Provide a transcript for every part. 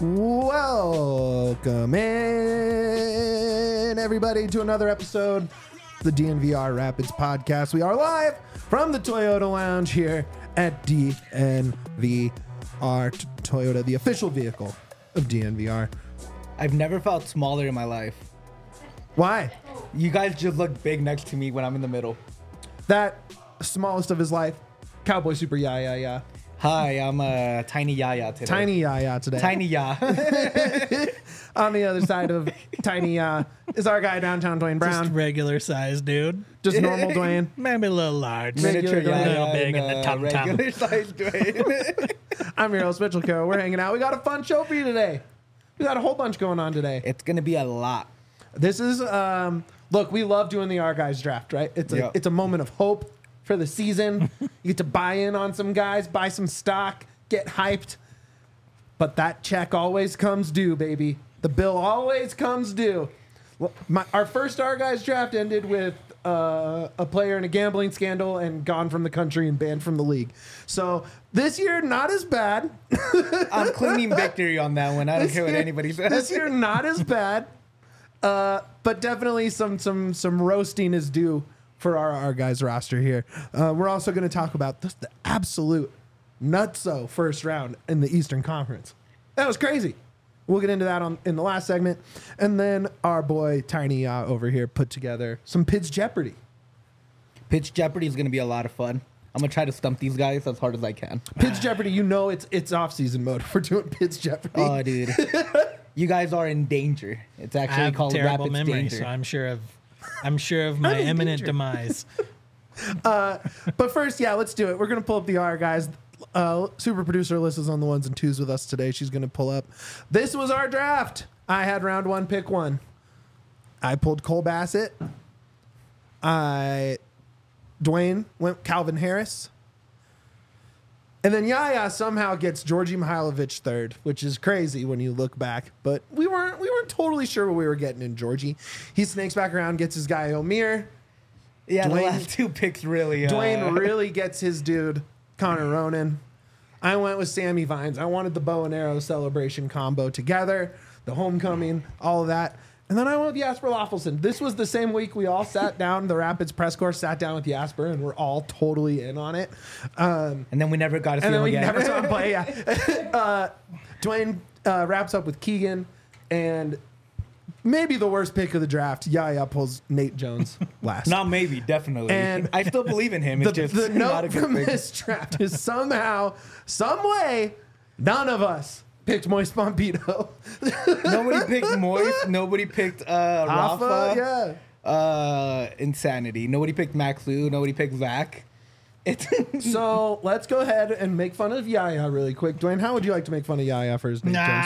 Welcome in, everybody, to another episode of the DNVR Rapids podcast. We are live from the Toyota Lounge here at DNVR Toyota, the official vehicle of DNVR. I've never felt smaller in my life. Why? You guys just look big next to me when I'm in the middle. That smallest of his life, Cowboy Super Yeah. Hi, I'm Tiny Yaya today. Tiny Yeah today. Tiny Ya. On the other side of Tiny is our guy downtown, Dwayne Brown. Just regular size, dude. Just normal Dwayne. Maybe a little large. Miniature Regular Dwayne. Yaya Little big and in the tum-tum. regular size Dwayne. I'm your host, Mitchell Co. We're hanging out. We got a fun show for you today. We got a whole bunch going on today. It's gonna be a lot. This is, look, we love doing the Our Guys draft, right? It's a moment of hope for the season. You get to buy in on some guys, buy some stock, get hyped. But that check always comes due, baby. The bill always comes due. Well, our first Our Guys draft ended with a player in a gambling scandal and gone from the country and banned from the league. So this year, not as bad. I'm claiming victory on that one. I don't care what anybody says. This year, not as bad. But definitely some roasting is due for our guys roster here. We're also going to talk about the absolute nutso first round in the Eastern Conference. That was crazy. We'll get into that in the last segment. And then our boy Tiny over here put together some Pitch Jeopardy. Pitch Jeopardy is gonna be a lot of fun. I'm gonna try to stump these guys as hard as I can. Pitch Jeopardy, you know it's off-season mode. We're doing Pitch Jeopardy. Oh, dude. You guys are in danger. It's I actually have called terrible Rapids memory, Danger. so I'm sure of my in imminent danger. demise. But first, let's do it. We're going to pull up the R guys. Super producer Alyssa's on the ones and twos with us today. She's going to pull up. This was our draft. I had round one, pick one. I pulled Cole Bassett. Dwayne went Calvin Harris. And then Yaya somehow gets Georgi Mihailovic third, which is crazy when you look back. But we weren't totally sure what we were getting in Georgie. He snakes back around, gets his guy Omir. Yeah, the Dwayne- last two picks really. Dwayne really gets his dude, Connor Ronan. I went with Sammy Vines. I wanted the bow and arrow celebration combo together, the homecoming, all of that. And then I went with Jasper Loffelson. This was the same week we all sat down, the Rapids press corps sat down with Jasper, and we're all totally in on it. And then we never got to see And then him we again. never saw him play, Dwayne wraps up with Keegan, and maybe the worst pick of the draft, Yaya pulls Nate Jones last. Not maybe, definitely. And I still believe in him. It's just the not a note good from pick. this draft is somehow, some way, none of us picked Moise Pompito. Nobody picked Moise. Nobody picked Rafa. Insanity. Nobody picked Max Lu. Nobody picked Zach. It's So let's go ahead and make fun of Yaya really quick. Dwayne, how would you like to make fun of Yaya for his Nate Jones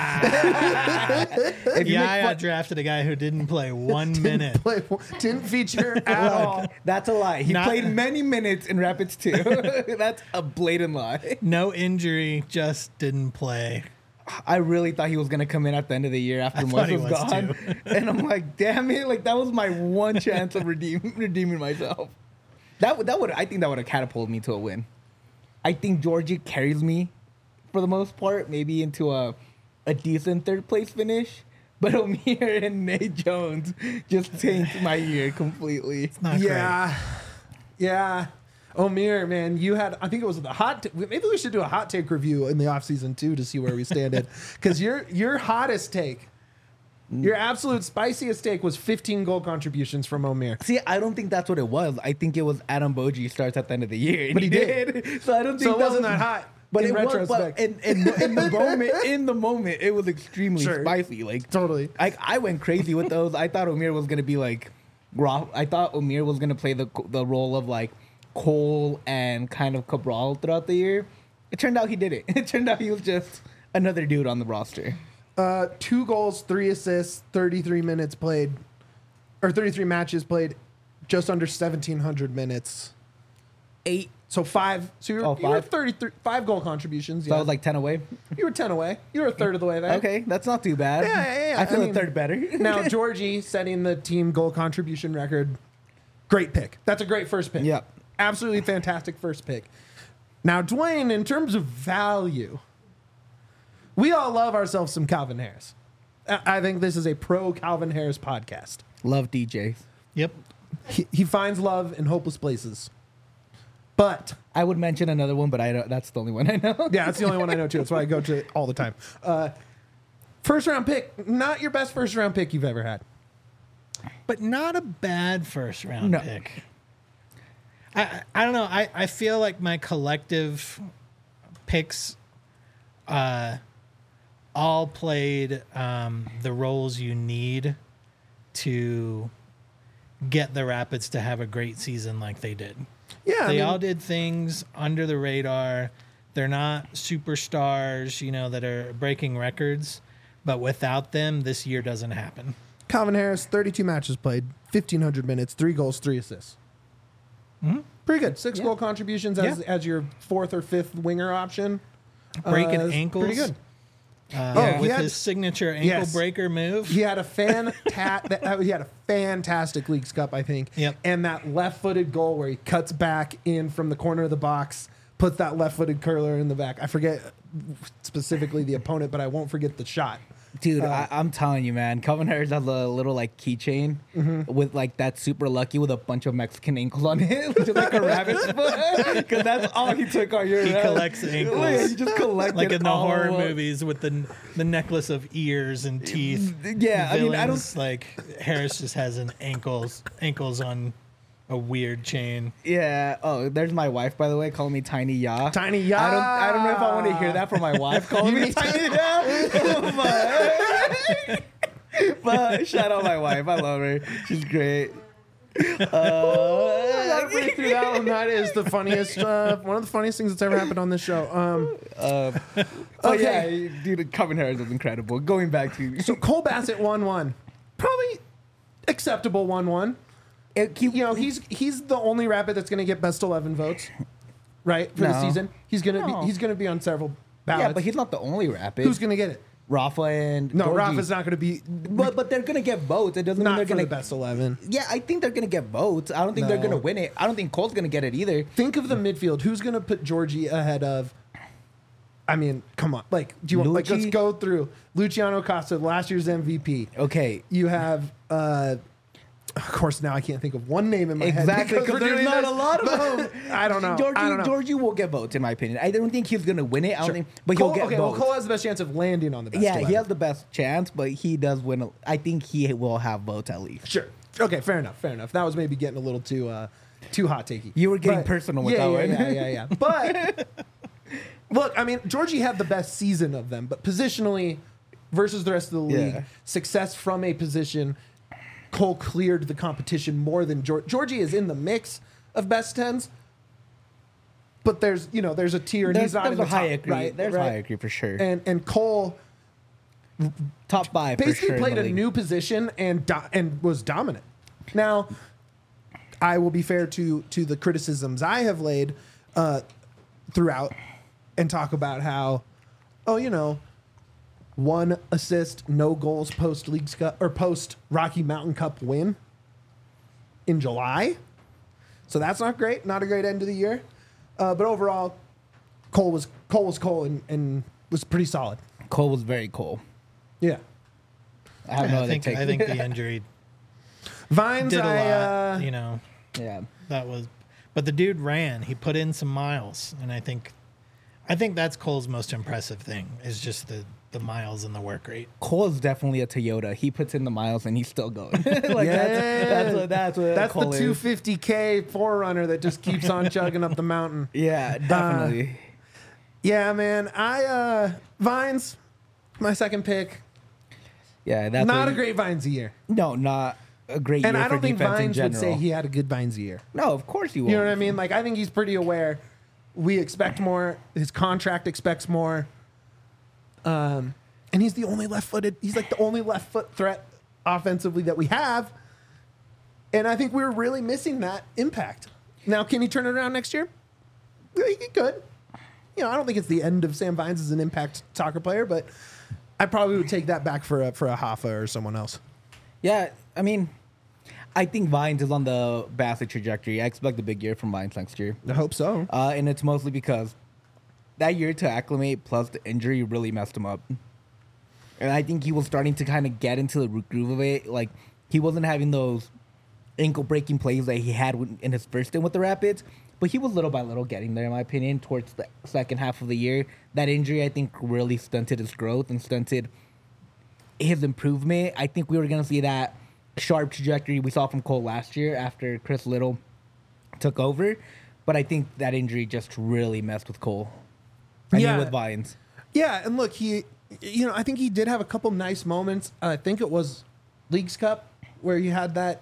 if you make Yaya fun, drafted a guy who didn't play 1 pick? minute. Didn't feature at all. that's a lie. He Not- played many minutes in Rapids 2. That's a blatant lie. No injury, just didn't play. I really thought he was gonna come in at the end of the year after thought Moise he was was gone, too. and I'm like, damn it! Like that was my one chance of redeeming myself. I think that would have catapulted me to a win. I think Georgie carries me for the most part, maybe into a decent third place finish. But Omir and Nate Jones just tanked my year completely. Not Yeah. Omir, man, you had, I think it was the maybe we should do a hot take review in the offseason too to see where we stand. Because your hottest take, your absolute spiciest take was 15 goal contributions from Omir. See, I don't think that's what it was. I think it was Adam Boji starts at the end of the year. And But he did. So I don't think So it wasn't that hot. But in it retrospect. was, but in the moment, it was extremely Sure. spicy. Like Totally. I went crazy with those. I thought Omir was gonna be like, I thought Omir was gonna play the role of like Cole and kind of Cabral throughout the year. It turned out he did it. It turned out he was just another dude on the roster. 2 goals, 3 assists, 33 minutes played, or 33 matches played, just under 1,700 minutes. 8. So 5. So you were 5? 33, 5 goal contributions. So Yeah. I was like 10 away. You were 10 away. You were a third of the way there. Okay, that's not too bad. Yeah. I feel mean, a third better. Now, Georgie setting the team goal contribution record. Great pick. That's a great first pick. Yeah. Absolutely fantastic first pick. Now, Dwayne, in terms of value, We all love ourselves some Calvin Harris. I think this is a pro Calvin Harris podcast. Love DJs. Yep. He finds love in hopeless places. But I would mention another one, but I don't, that's the only one I know. yeah, that's the only one I know too. That's why I go to it all the time. First round pick, not your best first round pick you've ever had. But not a bad first round No. pick. I don't know. I feel like my collective picks all played the roles you need to get the Rapids to have a great season like they did. Yeah, They all did things under the radar. They're not superstars, that are breaking records. But without them, this year doesn't happen. Calvin Harris, 32 matches played, 1,500 minutes, 3 goals, 3 assists. Pretty good. 6 goal contributions as your fourth or fifth winger option. Breaking Is ankles. Pretty good. With he had- his signature ankle breaker move. He had a fantastic Leagues Cup, I think. Yep. And that left-footed goal where he cuts back in from the corner of the box, puts that left-footed curler in the back. I forget specifically the opponent, but I won't forget the shot. Dude, I'm telling you, man. Calvin Harris has a little like keychain with like that super lucky with a bunch of Mexican ankles on it, which is like a rabbit's foot. Because that's all he took all year. He collects ankles. Yeah, he just collected Like in the all horror of them. movies with the necklace of ears and teeth. Yeah, I mean, I don't. Villains, like Harris just has an ankles on a weird chain. Yeah. Oh, there's my wife, by the way, calling me Tiny Ya. Tiny Ya. I don't know if I want to hear that from my wife calling me Tiny Ya. But shout out my wife. I love her. She's great. I gotta break through that one. That is the funniest, one of the funniest things that's ever happened on this show. Oh Okay. yeah, dude, Calvin Harris was incredible. Going back to So Cole Bassett 1-1. Probably acceptable 1-1. He's the only Rapid that's going to get best 11 votes, right, for the No. season. He's going to be on several ballots. yeah, but he's not the only Rapid. Who's going to get it? Rafa and No, Georgie. Rafa's not going to be. But they're gonna get votes. It doesn't mean Not they're for gonna the best 11. Yeah, I think they're gonna get votes. I don't think they're No. gonna win it. I don't think Cole's gonna get it either. Think of the midfield. Who's going to put Georgie ahead of? I mean, come on. Like, do you want? Like, let's Lucci? go through Luciano Costa, last year's MVP. Okay. You have. Of course, now I can't think of one name in my head. Exactly, because because we're there's doing not this. a lot of them. I don't know. I don't know. Georgie will get votes, in my opinion. I don't think he's gonna win it. I don't Sure. think, but Cole, he'll get okay, well, votes. Cole has the best chance of landing on the best. Yeah, 11. he has the best chance, but he does win. I think he will have votes at least. Sure. Okay, fair enough. That was maybe getting a little too hot takey. You were getting personal with yeah, that yeah, one. Yeah. But look, I mean, Georgie had the best season of them, but positionally versus the rest of the league, Yeah. success from a position, Cole cleared the competition more than Georgie is in the mix of best 10s. But there's a tier, and he's not in There's the a top, hierarchy. right? There's right? a hierarchy for sure. And Cole Top 5 for basically sure. played in the a league. new position and was dominant. Now, I will be fair to the criticisms I have laid throughout and talk about how, 1 assist, no goals post Leagues Cup or post Rocky Mountain Cup win in July. So that's not great. Not a great end of the year. But overall, Cole was Cole and was pretty solid. Cole was very cool. Yeah. I have no I other think take. the injury Vines, did a lot. Yeah. That was, but the dude ran. He put in some miles, and I think that's Cole's most impressive thing is just the miles and the work rate. Cole is definitely a Toyota. He puts in the miles and he's still going. That's what That's Cole the is. 250K forerunner that just keeps on chugging up the mountain. Yeah, definitely. Yeah, man. Vines, my second pick. Yeah, that's Not what- a great Vines year. No, not a great And year I don't for think defense in Vines would general. say he had a good Vines year. No, of course he won't. You know what I mean? Like, I think he's pretty aware. We expect more. His contract expects more. And he's the only left-footed. He's like the only left-foot threat offensively that we have. And I think we're really missing that impact. Now, can he turn it around next year? Yeah, he could. I don't think it's the end of Sam Vines as an impact soccer player, but I probably would take that back for a Hoffa or someone else. Yeah, I mean, I think Vines is on the Bassett trajectory. I expect a big year from Vines next year. I hope so. And it's mostly because that year to acclimate plus the injury really messed him up. And I think he was starting to kind of get into the groove of it. Like, he wasn't having those ankle-breaking plays that he had in his first stint with the Rapids, but he was little by little getting there, in my opinion, towards the second half of the year. That injury, I think, really stunted his growth and stunted his improvement. I think we were going to see that sharp trajectory we saw from Cole last year after Chris Little took over, but I think that injury just really messed with Cole. I mean, with Vines. Yeah, and look, I think he did have a couple nice moments. I think it was Leagues Cup where he had that,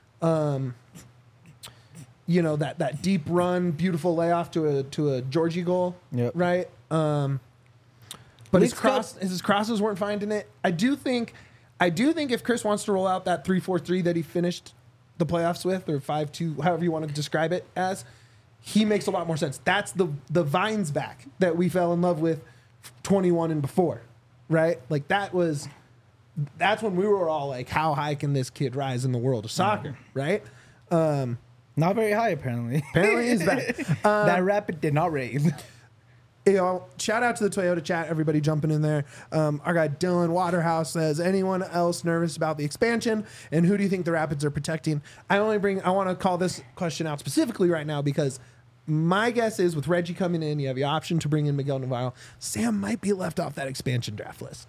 that deep run, beautiful layoff to a Georgie goal, right? But his crosses weren't finding it. I do think if Chris wants to roll out that 3-4-3 that he finished the playoffs with, or 5-2, however you want to describe it as, he makes a lot more sense. That's the Vines back that we fell in love with 21 and before, right? Like that's when we were all like, how high can this kid rise in the world of soccer, right? Not very high, apparently. Apparently he's back. That Rapid did not raise. Shout out to the Toyota chat, everybody jumping in there. Our guy Dylan Waterhouse says, anyone else nervous about the expansion, and who do you think the Rapids are protecting? I want to call this question out specifically right now because my guess is with Reggie coming in, you have the option to bring in Miguel Navarro. Sam might be left off that expansion draft list.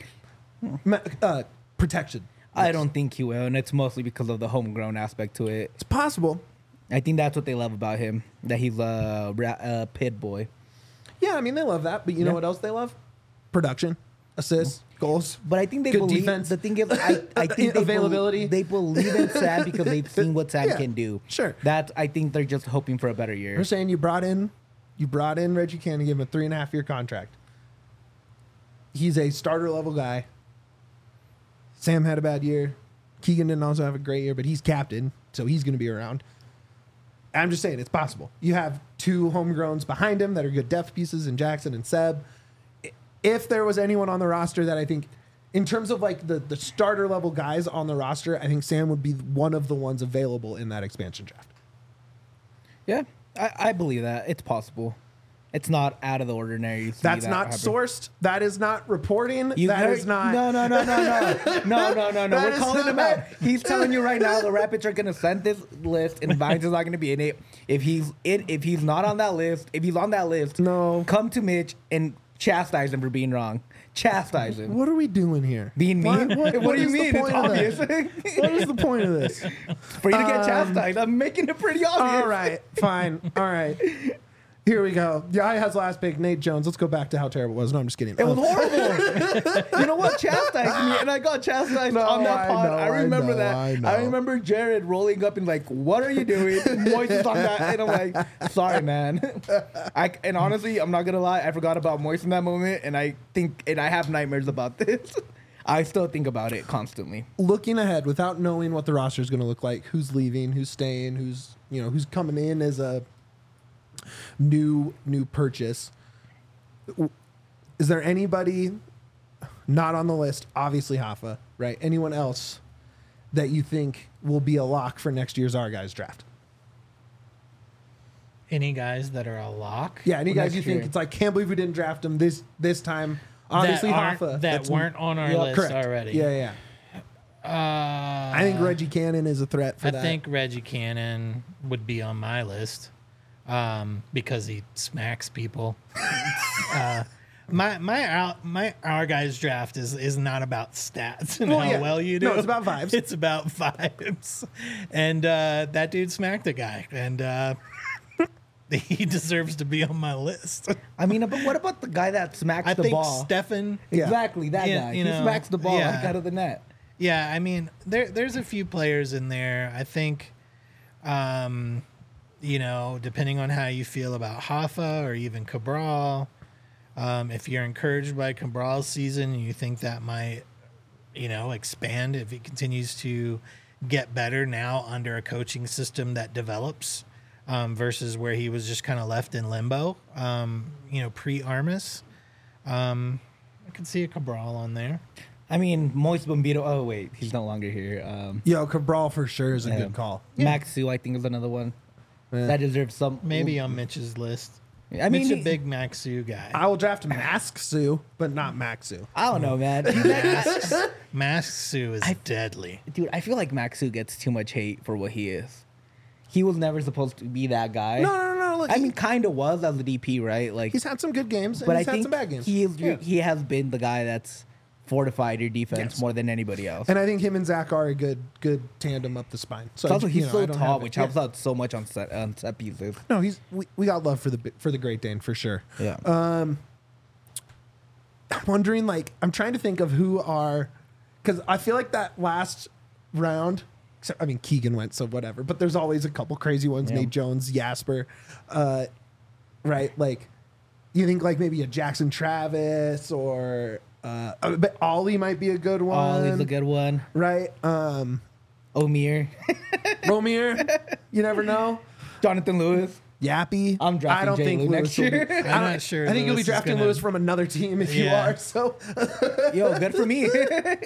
Protection. I don't think he will, and it's mostly because of the homegrown aspect to it. It's possible. I think that's what they love about him, that he's a pit boy. Yeah, I mean, they love that, but you know what else they love? Production, assists, goals. But I think they good believe defense. The thing is, I think availability. They believe in Sam because they've seen what Sam can do. Sure. I think they're just hoping for a better year. We're saying you brought in Reggie Cannon, give him a 3.5-year contract. He's a starter level guy. Sam had a bad year. Keegan didn't also have a great year, but he's captain, so he's going to be around. I'm just saying it's possible. You have two homegrowns behind him that are good depth pieces in Jackson and Seb. If there was anyone on the roster that I think, in terms of like the starter level guys on the roster, I think Sam would be one of the ones available in that expansion draft. Yeah, I believe that. It's possible. It's not out of the ordinary. That's not sourced. That is not reporting. No. We're calling him out. He's telling you right now the Rapids are going to send this list, and Vines is not going to be in it. If he's not on that list, no, come to Mitch and chastise him for being wrong. Chastise him. What are we doing here? Being mean? What do you mean? It's obvious. What is the point of this? For you to get chastised. I'm making it pretty obvious. All right, fine. All right. Here we go. Yaya has last pick, Nate Jones. Let's go back to how terrible it was. No, I'm just kidding. It was horrible. You know what? Chastised me, and I got chastised on that pod. I remember that. I remember Jared rolling up and like, "What are you doing?" Moist is on that, and I'm like, "Sorry, man." And honestly, I'm not gonna lie. I forgot about Moist in that moment, and I have nightmares about this. I still think about it constantly. Looking ahead, without knowing what the roster is going to look like, who's leaving, who's staying, who's coming in as a new purchase. Is there anybody not on the list? Obviously Hoffa, right? Anyone else that you think will be a lock for next year's Our Guys draft? Any guys that are a lock? Yeah, any guys you think it's like, can't believe we didn't draft them this time. Obviously Hoffa. That weren't on our list correct. already. Yeah. I think Reggie Cannon is a threat for that. I think Reggie Cannon would be on my list. Because he smacks people. My Our Guys draft is not about stats and how well you do. No, it's about vibes. It's about vibes. And that dude smacked a guy, and he deserves to be on my list. I mean, but what about the guy that smacks the ball? I think Stefan. Exactly, that guy. He smacks the ball out of the net. Yeah, I mean, there's a few players in there. I think, depending on how you feel about Hoffa or even Cabral, if you're encouraged by Cabral's season and you think that might, expand if he continues to get better now under a coaching system that develops, versus where he was just kind of left in limbo, pre-Armas. I could see a Cabral on there. I mean, Moist Bombito. Oh, wait. He's no longer here. Cabral for sure is a good call. Max Sue, I think, is another one. That deserves some. Maybe on Mitch's list. I mean, Mitch a big Maxu guy. I will draft Maxu, but not Maxu. I don't know, man. Maxu is deadly. Dude, I feel like Maxu gets too much hate for what he is. He was never supposed to be that guy. No. Look, I mean, kind of was as a DP, right? Like, he's had some good games, and but he's I had think some bad games. he has been the guy that's fortified your defense more than anybody else. And I think him and Zach are a good tandem up the spine. So Also, he's so I don't tall, have it. which helps out so much on set pieces. No, we got love for the Great Dane for sure. Yeah. I'm wondering, like, I'm trying to think of who are, because I feel like that last round, except, I mean, Keegan went, so whatever, but there's always a couple crazy ones, Yeah. Nate Jones, Jasper, right? Like, you think like maybe a Jackson Travis or, but Ollie might be a good one. Ollie's a good one. right? Omir. Romir, you never know. Jonathan Lewis. Yappy. I'm drafting I don't Jay think Lou Lewis next will be- year. I'm not sure. I think you'll be Lewis is drafting gonna- Lewis from another team if you Yeah. are. So Yo, good for me.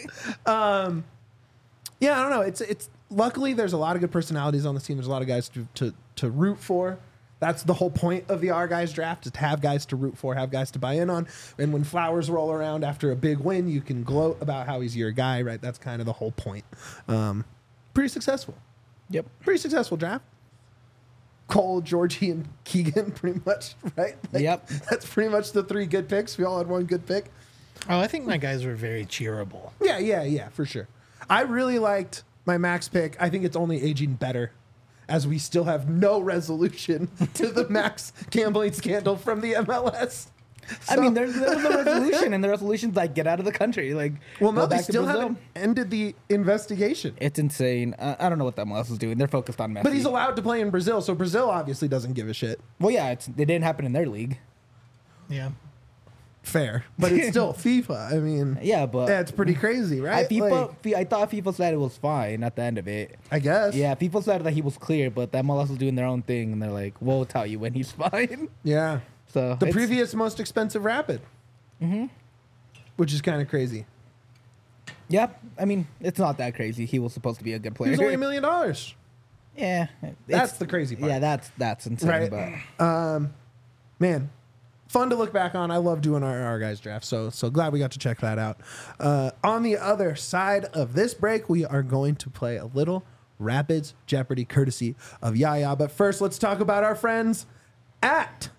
yeah, I don't know. It's luckily there's a lot of good personalities on this team. There's a lot of guys to root for. That's the whole point of the Our Guys draft, is to have guys to root for, have guys to buy in on. And when flowers roll around after a big win, you can gloat about how he's your guy, right? That's kind of the whole point. Pretty successful. Yep. Pretty successful draft. Cole, Georgie, and Keegan, pretty much, right? Yep. That's pretty much the three good picks. We all had one good pick. Oh, I think my guys were very cheerable. Yeah, for sure. I really liked my Max pick. I think it's only aging better, as we still have no resolution to the Max gambling scandal from the MLS. I So- mean, there was a resolution, and the resolution's like, get out of the country. Like, well, no, go they back to still Brazil. haven't ended the investigation. It's insane. I don't know what the MLS is doing. They're focused on Messi. But he's allowed to play in Brazil, so Brazil obviously doesn't give a shit. Well, yeah, it didn't happen in their league. Yeah. Fair, but it's still FIFA. I mean, Yeah, but that's pretty crazy, right? I thought FIFA said it was fine at the end of it. I guess. Yeah, people said that he was clear, but the MLS was doing their own thing, and they're like, "We'll tell you when he's fine." Yeah. So The it's- previous most expensive Rapid. Mm-hmm. Which is kind of crazy. yeah, I mean, it's not that crazy. He was supposed to be a good He player. was only $1 million. Yeah, That's it's- the crazy part. Yeah, that's insane. Right. But Man, fun to look back on. I love doing our guys draft. So glad we got to check that out. On the other side of this break, we are going to play a little Rapids Jeopardy courtesy of Yaya. But first, let's talk about our friends at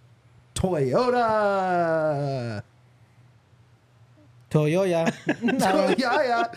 Toyota. Toyota. Yaya.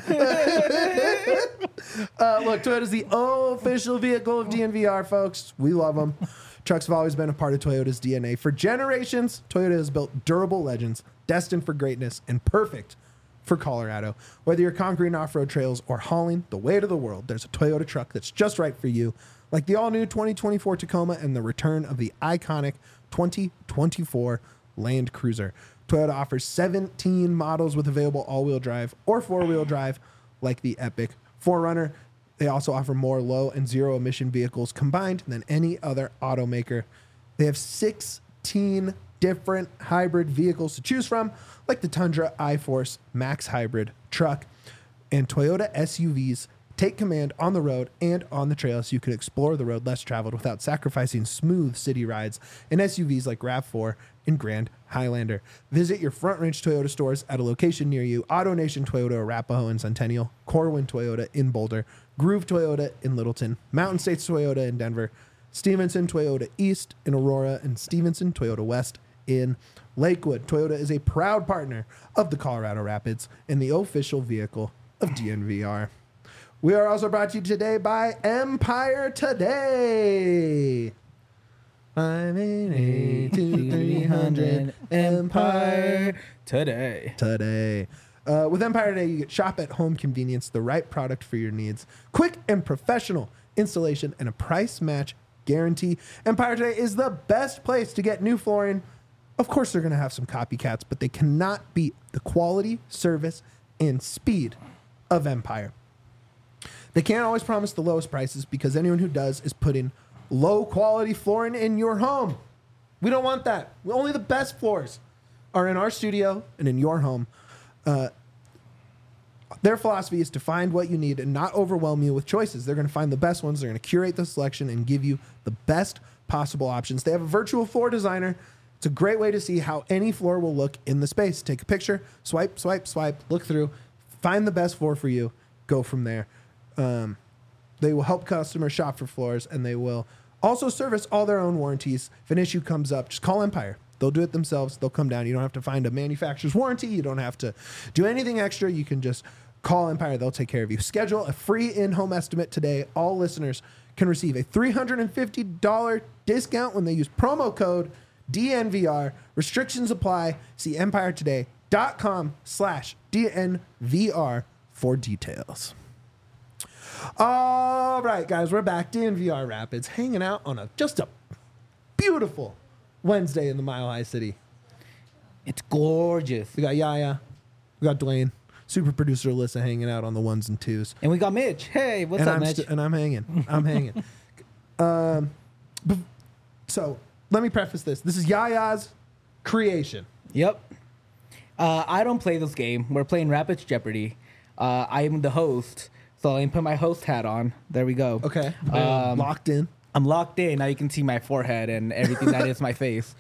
Look, Toyota's the official vehicle of DNVR, folks. We love them. Trucks have always been a part of Toyota's DNA. For generations, Toyota has built durable legends destined for greatness and perfect for Colorado. Whether you're conquering off-road trails or hauling the weight of the world, there's a Toyota truck that's just right for you. Like the all-new 2024 Tacoma and the return of the iconic 2024 Land Cruiser. Toyota offers 17 models with available all-wheel drive or four-wheel drive, like the Epic 4Runner. They also offer more low and zero emission vehicles combined than any other automaker. They have 16 different hybrid vehicles to choose from, like the Tundra iForce Max Hybrid truck, and Toyota SUVs take command on the road and on the trail so you can explore the road less traveled without sacrificing smooth city rides in SUVs like RAV4 and Grand Highlander. Visit your Front Range Toyota stores at a location near you: AutoNation Toyota Arapahoe in Centennial, Corwin Toyota in Boulder, Groove Toyota in Littleton, Mountain States Toyota in Denver, Stevenson Toyota East in Aurora, and Stevenson Toyota West in Lakewood. Toyota is a proud partner of the Colorado Rapids and the official vehicle of DNVR. We are also brought to you today by Empire Today. 588-2300 Empire today. With Empire Today, you get shop at home convenience, the right product for your needs, quick and professional installation, and a price match guarantee. Empire Today is the best place to get new flooring. Of course, they're going to have some copycats, but they cannot beat the quality, service, and speed of Empire. They can't always promise the lowest prices because anyone who does is putting low quality flooring in your home. We don't want that. Only the best floors are in our studio and in your home. Their philosophy is to find what you need and not overwhelm you with choices. They're going to find the best ones. They're going to curate the selection and give you the best possible options. They have a virtual floor designer. It's a great way to see how any floor will look in the space. Take a picture, swipe, swipe, swipe, look through, find the best floor for you, go from there. They will help customers shop for floors, and they will also service all their own warranties. If an issue comes up, just call Empire. They'll do it themselves. They'll come down. You don't have to find a manufacturer's warranty. You don't have to do anything extra. You can just call Empire. They'll take care of you. Schedule a free in-home estimate today. All listeners can receive a $350 discount when they use promo code DNVR. Restrictions apply. See empiretoday.com/DNVR for details. All right, guys, we're back. DNVR Rapids hanging out on just a beautiful Wednesday in the Mile High City. It's gorgeous. We got Yaya. We got Dwayne. Super producer Alyssa hanging out on the ones and twos. And we got Mitch. Hey, what's up, Mitch? And I'm hanging. I'm hanging. So let me preface this. This is Yaya's creation. Yep. I don't play this game. We're playing Rapids Jeopardy. I am the host, so I put my host hat on. There we go. Okay. Locked in. I'm locked in. Now you can see my forehead and everything that is my face.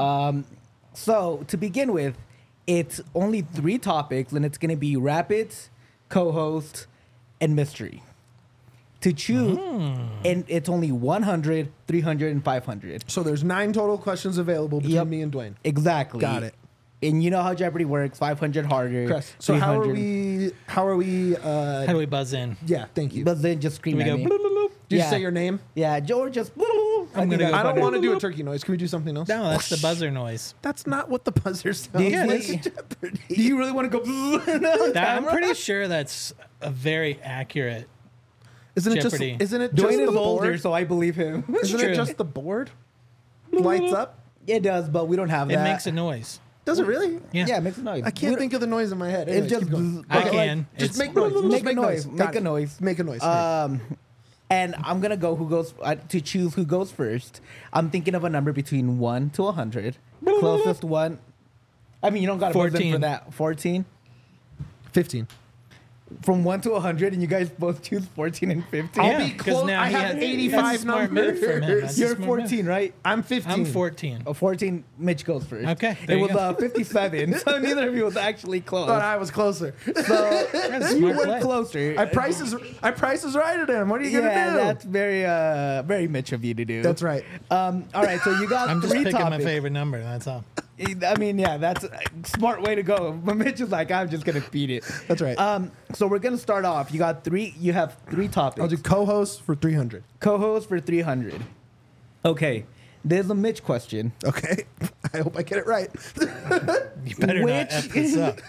So to begin with, it's only 3 topics, and it's going to be Rapids, co-host, and mystery. To choose, and it's only 100, 300, and 500. So there's 9 total questions available between me and Dwayne. Exactly. Got it. And you know how Jeopardy works: 500 harder. Chris, so how are 300. we? How How do we buzz in? Yeah, thank you. But then just scream Do we at go me. bloop, bloop, bloop? Did yeah. you say your name? Yeah, George just. I'm gonna go I don't butter. want to do a turkey noise. Can we do something else? No, that's the buzzer noise. That's not what the buzzer sounds Yeah, like. that's- Do you really want to go? I'm pretty sure that's a very accurate. Isn't it Jeopardy. just? Isn't it just Dwayne the is older, board? so I believe him. Isn't true. it just the board lights up? It does, but we don't have It that. makes a noise. Does it really? Yeah. Yeah, it makes a noise. I can't think of the noise in my head. Anyways, It's just. keep going. I but, can. Just It's- make noise. Just Make a noise. Got Make a it. noise. Make a noise. And I'm gonna go who goes to choose who goes first. I'm thinking of a number between 1 to 100. Closest one. I mean, you don't got to buzz in 14. for that. 14. 15. From 1 to 100, and you guys both choose 14 and 15. I'll Yeah, be 'cause close. now I he have has- an that's a 85 smart number. move from him. That's a You're smart 14, right? I'm 15. I'm 14. Oh, 14. Mitch goes first. Okay, It there you was go. 57, so neither of you was actually close. Thought I was closer. So That's a you smart were play. closer. I prices right at him. What are you yeah, gonna do? that's very Mitch of you to do. That's right. All right, so you got I'm just 3 picking topics. my favorite number. That's all. I mean, yeah, that's a smart way to go. But Mitch is like, I'm just gonna beat it. That's right. So we're gonna start off. You have 3 topics. I'll do co-host for 300. Co-host for 300. Okay, there's a Mitch question. Okay. I hope I get it right. You better Which- not F this up.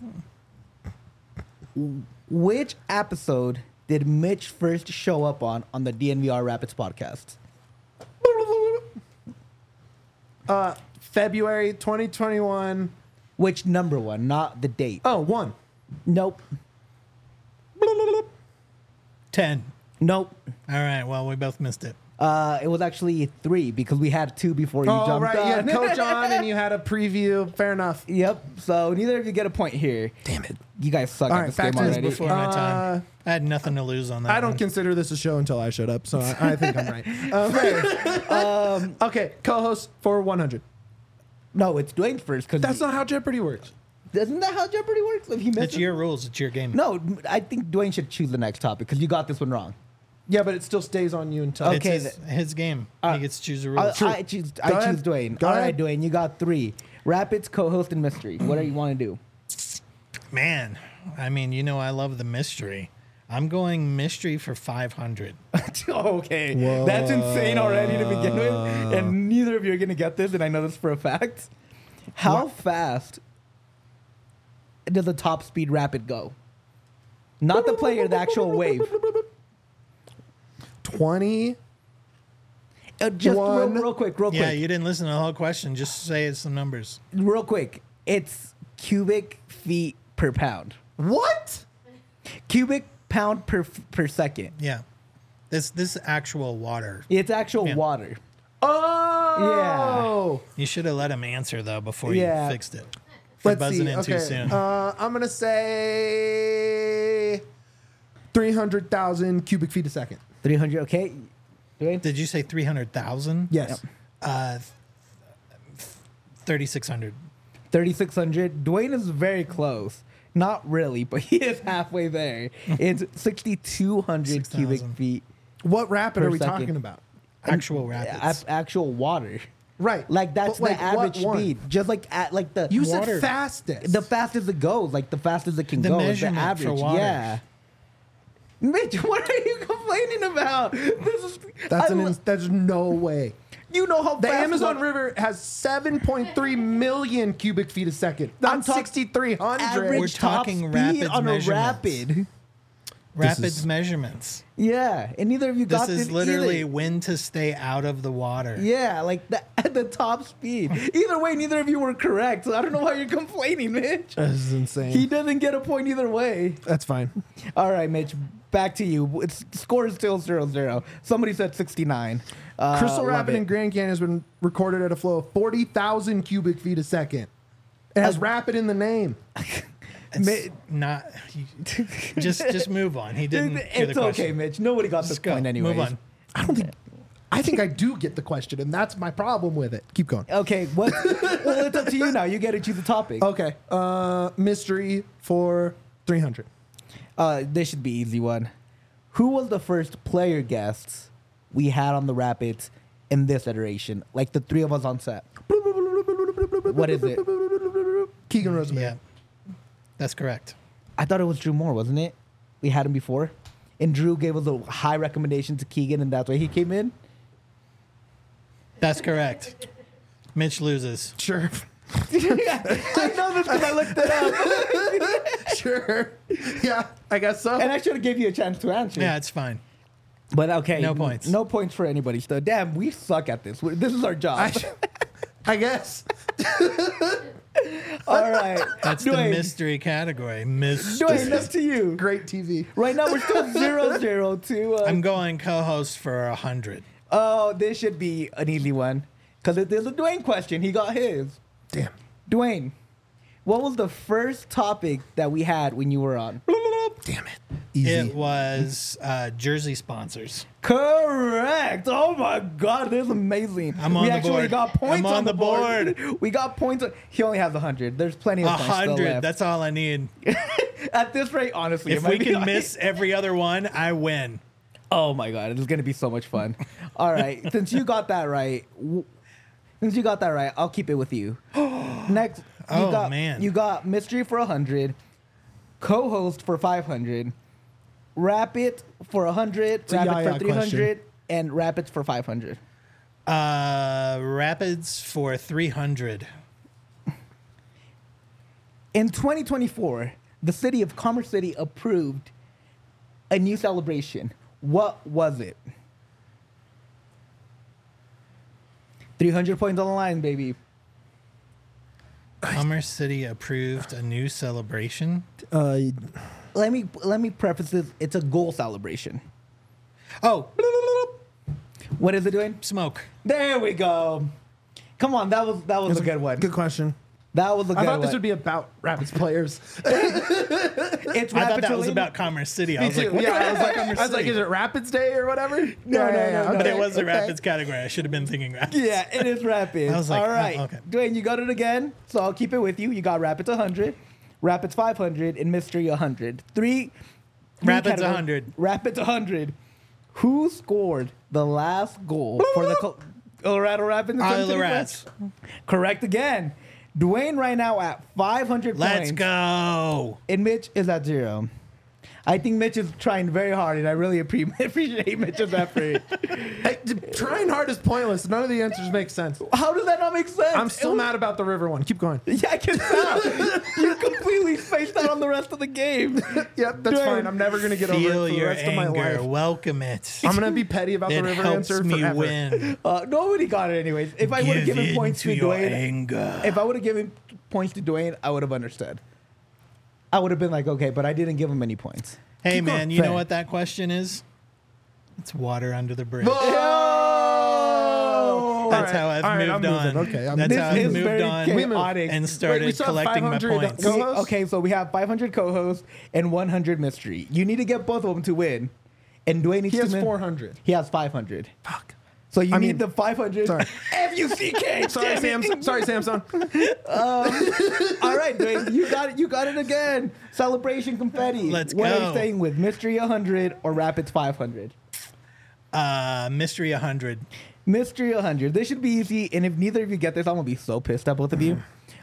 Which episode did Mitch first show up on the DNVR Rapids podcast? February 2021. Which number one, not the date? Oh, 1. Nope. 10. Nope. All right. Well, we both missed it. It was actually 3 because we had 2 before you Oh, jumped right. on. You had Coach on and you had a preview. Fair enough. Yep. So neither of you get a point here. Damn it. You guys suck All at right, this back game to this already. Before my time. I had nothing to lose on that. I don't one. consider this a show until I showed up, so I think I'm right. Okay, co-host for 100. No, it's Dwayne first because That's not how Jeopardy works. Isn't that how Jeopardy works? If he It's misses, your rules. It's your game. no, I think Dwayne should choose the next topic because you got this one wrong. Yeah, but it still stays on you until. Okay. It's his game. He gets to choose the I rules. choose Go ahead. Dwayne. Go All ahead. right, Dwayne, you got 3. Rapids, co-host, and mystery. What do you want to do? Man, I mean, I love the mystery. I'm going mystery for 500. Okay, that's insane already to begin with, and neither of you are gonna get this, and I know this for a fact. How fast does a top speed rapid go? Not the player, the actual wave. 20. Just One. real quick. Yeah, you didn't listen to the whole question. Just say some numbers. Real quick. It's cubic feet per pound. What? Cubic pound per second. Yeah. This actual water. It's actual Yeah. water. Oh. You should have let him answer though before Yeah. you fixed it. For Let's buzzing see. in Okay. too soon. I'm gonna say 300,000 cubic feet a second. 300. Okay. Dwayne? Did you say 300,000? Yes. 3,600. 3,600. Dwayne is very close. Not really, but he is halfway there. It's 6,200 cubic 6,000. feet. What rapid Per are we second. talking about? Actual rapids. Actual water. Right. Like that's But, the average what one? speed. Just like at like the You Water. said fastest. the fastest it goes, like the fastest it can The go is the measurement for average. water. Yeah. Mitch, what are you complaining about? This is That's no way. you know how The fast Amazon water- River has 7.3 million cubic feet a second. I'm Not talking 6,300. average We're top talking speed rapids on a measurements. rapid. Rapids is- measurements. Yeah, and neither of you got This is this literally either. when to stay out of the water. Yeah, like at the top speed. Either way, neither of you were correct. So I don't know why you're complaining, Mitch. This is insane. He doesn't get a point either way. That's fine. All right, Mitch, back to you. It's score is still 0-0. Somebody said 69. Crystal love Rapid it. in Grand Canyon has been recorded at a flow of 40,000 cubic feet a second. It has rapid in the name. It's not. Just move on. He didn't. hear the It's okay, question. Mitch. Nobody got this Just go. point anyway. Move on. I think I do get the question, and that's my problem with it. Keep going. Okay, well, it's up to you now. You get to choose the topic. Okay. Mystery for 300. This should be easy one. Who was the first player guests we had on the Rapids in this iteration? Like the three of us on set. What is it? Keegan Rosemary. Yeah, that's correct. I thought it was Drew Moore, wasn't it? We had him before. And Drew gave us a high recommendation to Keegan, and that's why he came in. That's correct. Mitch loses. Sure. I know this because I looked it up. Sure. Yeah, I guess so. And I should have gave you a chance to answer. Yeah, it's fine. But okay. No points. No points for anybody. So, damn, we suck at this. This is our job. I guess. All right. That's the Dwayne, mystery category. Mystery. Dwayne, that's to you. Great TV. Right now, we're still 0-0 to... I'm going co-host for 100. Oh, this should be an easy one. Because there's a Dwayne question. He got his. Damn. Dwayne, what was the first topic that we had when you were on? Damn it. Easy. It was jersey sponsors. Correct. Oh my God, this is amazing. I'm on we the actually board. got points I'm on on the the board. We got points. He only has 100. There's plenty of points still 100. left. That's all I need. At this rate, honestly, If it might we be can miss every other one, I win. Oh my God, it's gonna be so much fun. All right, since you got that right, I'll keep it with you. Next, you got mystery for 100, co-host for 500, rapid for 100, a rapid yaya for 300, question. and rapids for 500. Rapids for 300. In 2024, the city of Commerce City approved a new celebration. What was it? 300 points on the line, baby. Commerce City approved a new celebration. Let me preface this. It's a goal celebration. Oh, What is it doing? smoke. There we go. Come on, that was a good one. Good question. That was a good I thought one. this would be about Rapids players. It's I thought Rapids that was related. about Commerce City. I was Me like, too. what Yeah, the I was heck like, is Commerce I was like, City? is it Rapids Day or whatever? No. But okay, it was the okay. Rapids category. I should have been thinking Rapids. Yeah, it is Rapids. I was like, all right. oh, okay. Dwayne, you got it again, so I'll keep it with you. You got Rapids 100, Rapids 500, and Mystery 100. Three Rapids categories. 100. Rapids 100. Who scored the last goal for the Colorado Rapids? in Iowa 2025? Rats. Correct again. Dwayne right now at 500 Let's points. go. And Mitch is at 0. I think Mitch is trying very hard, and I really appreciate Mitch's effort. Hey, trying hard is pointless. None of the answers make sense. How does that not make sense? I'm still mad about the river one. Keep going. Yeah, I can tell. You completely spaced out on the rest of the game. Yep, that's Dude, fine. I'm never going to get over it Feel for the your rest of my anger. life. Welcome it. I'm going to be petty about the It river helps answer me forever. win. Nobody got it anyways. If I would have Give given in points to your Dwayne, anger. if I would have given points to Dwayne, I would have understood. I would have been like, okay, but I didn't give him any points. Hey, Keep going. man, you know Fair. what that question is? It's water under the bridge. Oh! That's All how I've all right, moved I'm on. moving. Okay, I'm That's moving. how This I've is moved very on chaotic. and started we still have collecting my 500 points. Co-hosts? Okay, so we have 500 co-hosts and 100 mystery. You need to get both of them to win. and Dwayne needs He has to 400. He has 500. Fuck. So you I need mean- the 500. Sorry. F-U-C-K. Sorry, damn it. Samson. Sorry, Samson. All right, Dwayne, you got it. You got it again. Celebration confetti. Let's What are go. you saying with Mystery 100 or Rapids 500? Mystery 100. Mystery 100. This should be easy. And if neither of you get this, I'm gonna be so pissed at both of you.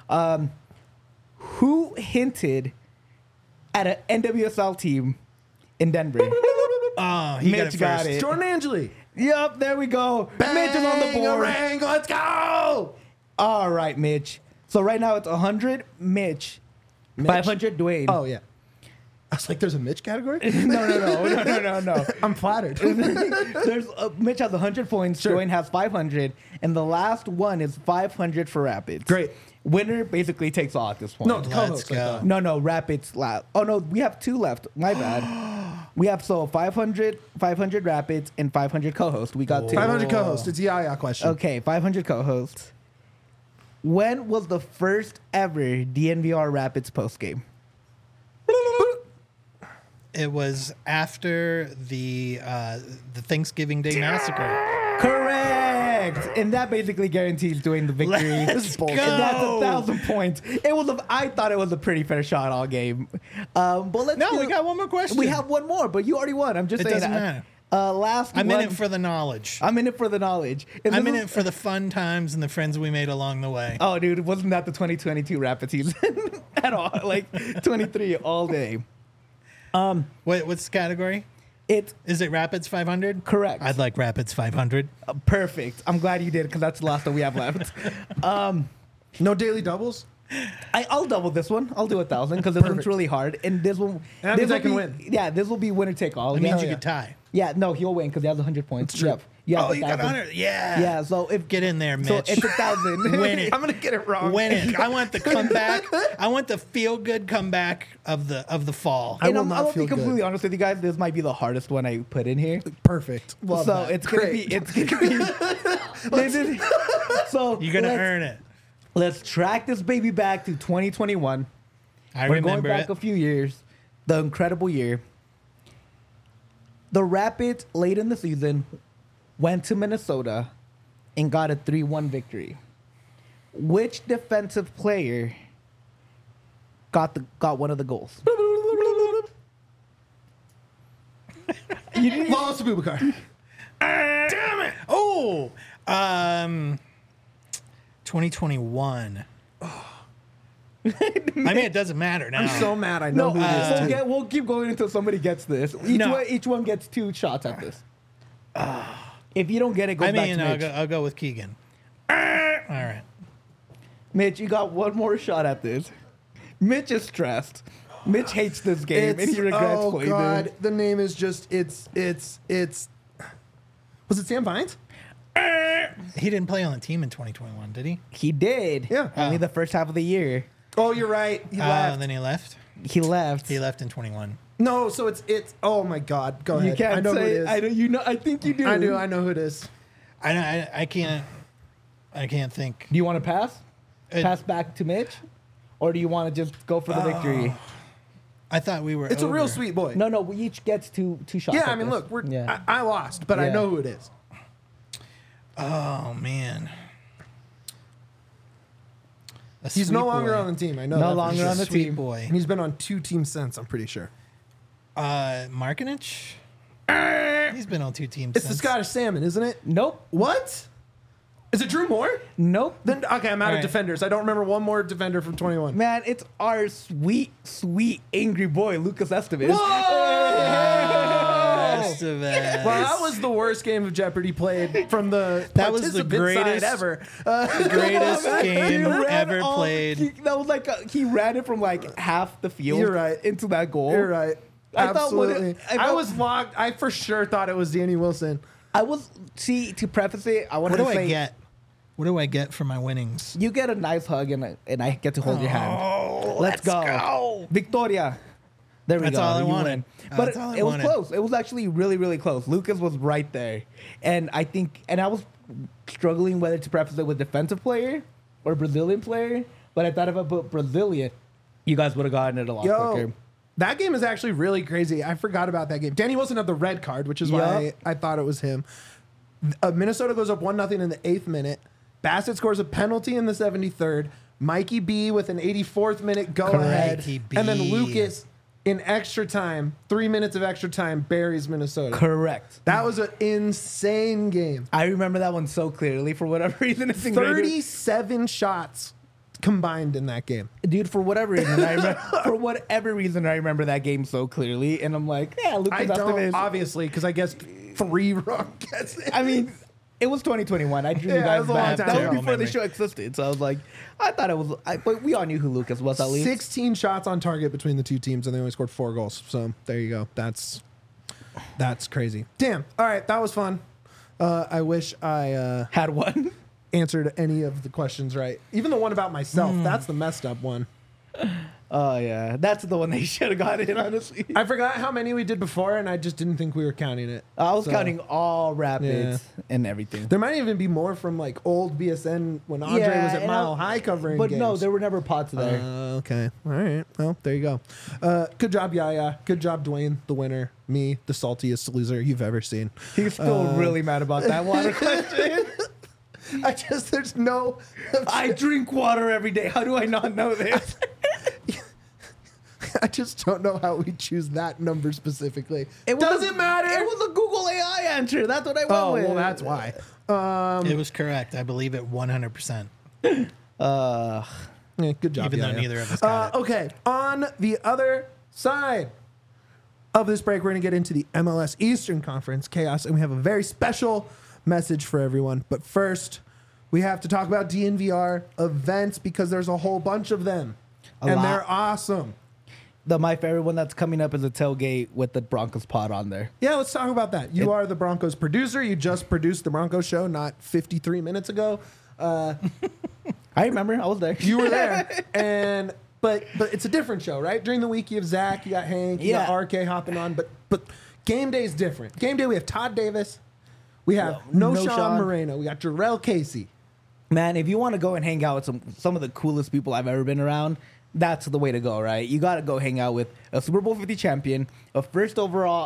Who hinted at an NWSL team in Denver? Oh, he Mitch got got it it. Jordan Angeli. Yep, there we go. Mitch is on the board. Bangarang, let's go. All right, Mitch. So right now it's 100, Mitch. 500, Dwayne. Oh, yeah. I was like, there's a Mitch category? No. I'm flattered. There's Mitch has 100 points. Sure. Dwayne has 500, and the last one is 500 for Rapids. Great. Winner basically takes all at this point. No, Let's co-host. go. No, Rapids last. Oh no, we have 2 left. My bad. We have 500 Rapids and 500 co-host. We got 2. 500 co-host. It's a Yaya question. Okay, 500 co-hosts. When was the first ever DNVR Rapids post game? It was after the Thanksgiving Day massacre. Correct, and that basically guarantees doing the victory. Let's go. And that's 1,000 points. It was. I thought it was a pretty fair shot all game. But let's. No, do- we got one more question. We have one more, but you already won. I'm just It saying. doesn't that. matter. Last. I'm one, in it for the knowledge. I'm in it for the knowledge. And I'm this in is- it for the fun times and the friends we made along the way. Oh, dude, wasn't that the 2022 Rapid season at all? Like 23 all day. What's the category? It's Is it Rapids 500? correct. I'd like Rapids 500. Perfect. I'm glad you did because that's the last one we have left. No daily doubles? I'll double this one. I'll do 1,000 because this one's Perfect. really hard, and this one. And that this means I will can be- win. Yeah, this will be winner take all. It means yeah. you could tie. Yeah, no, he'll win because he has 100 points. It's true. Yep. You have Oh, you got 1,000. 100. Yeah. Yeah, so if Get in there, Mitch. so, it's 1,000. Win it. I'm going to get it wrong. Win it. I want the comeback. I want the feel good comeback of the fall. I And will I'm not gonna be feel good. completely honest with you guys. This might be the hardest one I put in here. Perfect. Love so that. it's gonna Great. be. It's gonna be. this is, so You're gonna let's- earn it. Let's track this baby back to 2021. I We're remember going back it. a few years. The incredible year. The Rapids, late in the season, went to Minnesota and got a 3-1 victory. Which defensive player got one of the goals? Wallace Abubakar. Damn it! Oh, 2021. I mean, it doesn't matter now. I'm so mad I know No, who it is. too. we'll keep going until somebody gets this. Each one gets 2 shots at this. If you don't get it, go I back mean, to Mitch. I'll go with Keegan. All right. Mitch, you got one more shot at this. Mitch is stressed. Mitch hates this game and he regrets oh playing God, it. the name is just it's. Was it Sam Vines? He didn't play on the team in 2021, did he? He did. Yeah. Only Oh. the first half of the year. Oh, you're right. He left. And then he left. He left. He left in 21. No, so it's. Oh my God, go ahead. You can't I know say who it is. I know you know I think you do. I do. I know who it is. I can't think. Do you want to pass? It- Pass back to Mitch? Or do you want to just go for the victory? I thought we were. It's a real over. sweet boy. No, we each gets two shots. Yeah, at I mean, this. look, we're. Yeah. I lost, but I Yeah. know who it is. Oh man. A He's sweet no longer boy. on the team. I know. No that for longer sure. on the Sweet team. boy. And he's been on 2 teams since. I'm pretty sure. Markinich. He's been on 2 teams. It's the since. Scottish Salmon, isn't it? Nope. What? Is it Drew Moore? Nope. Then okay, I'm out All of right. defenders. I don't remember one more defender from 21. Man, it's our sweet, sweet, angry boy, Lucas Estevez. Best of us. Well, that was the worst game of Jeopardy played from the That was the participant greatest- side ever. the greatest game He ran ever all- played. that was like he ran it from like half the field. You're right. Into that goal. You're right. I thought when Absolutely. it- I was locked. I for sure thought it was Danny Wilson. I was to preface it. I What wanted do to say I get? What do I get for my winnings? you get a nice hug and I get to hold your hand. Oh, Let's go. Victoria. There we That's go. all I You wanted. win. That's But all I it was wanted. close. It was actually really, really close. Lucas was right there. And I think, and I was struggling whether to preface it with defensive player or Brazilian player. But I thought if I put Brazilian, you guys would have gotten it a lot Yo, quicker. That game is actually really crazy. I forgot about that game. Danny Wilson had the red card, which is why Yep. I thought it was him. Minnesota goes up 1-0 in the 8th minute. Bassett scores a penalty in the 73rd. Mikey B with an 84th minute go ahead. Mikey B. And then Lucas in extra time, 3 minutes of extra time, buries Minnesota. Correct. That was an insane game. I remember that one so clearly for whatever reason. It's ingrained. 37 shots combined in that game. Dude, for whatever reason, I remember that game so clearly, and I'm like, yeah, Lucas I don't, Esteves. obviously, because I guessed 3 wrong guesses. I mean, it was 2021. I drew Yeah, you it guys was a long back. time That ago. was before the Memory. show existed, so I was like, I thought it was. But we all knew who Lucas was at least. 16 shots on target between the two teams, and they only scored 4 goals. So there you go. That's crazy. Damn. All right, that was fun. I wish I Had one. answered any of the questions right. Even the one about myself. That's the messed up one. Oh yeah, that's the one they should have got in. Honestly, I forgot how many we did before, and I just didn't think we were counting it. I was So, counting all rapids and everything. There might even be more from like old BSN when Andre was at and Mile High covering But games. no, there were never pots there. Okay. All right. Well, there you go. Good job, Yaya. Good job, Dwayne, the winner. Me, the saltiest loser you've ever seen. He's still really mad about that water question. There's no. I drink water every day. How do I not know this? I just don't know how we choose that number specifically. It Doesn't matter. It was a Google AI answer. That's what I went Oh, with. well, that's why. It was correct. I believe it 100%. Yeah, good job, Even though Yaya. neither of us got it. Okay, on the other side of this break, we're going to get into the MLS Eastern Conference chaos, and we have a very special message for everyone. But first, we have to talk about DNVR events because there's a whole bunch of them, A and lot. they're awesome. My favorite one that's coming up is a tailgate with the Broncos pod on there. Yeah, let's talk about that. You are the Broncos producer. You just produced the Broncos show not 53 minutes ago. I remember. I was there. You were there, but it's a different show, right? During the week, you have Zach, you got Hank, you got Yeah. RK hopping on, but game day is different. Game day, we have Todd Davis, we have No No Sean Sean. Moreno, we got Jarrell Casey. Man, if you want to go and hang out with some of the coolest people I've ever been around, that's the way to go, right? You got to go hang out with a Super Bowl 50 champion, a first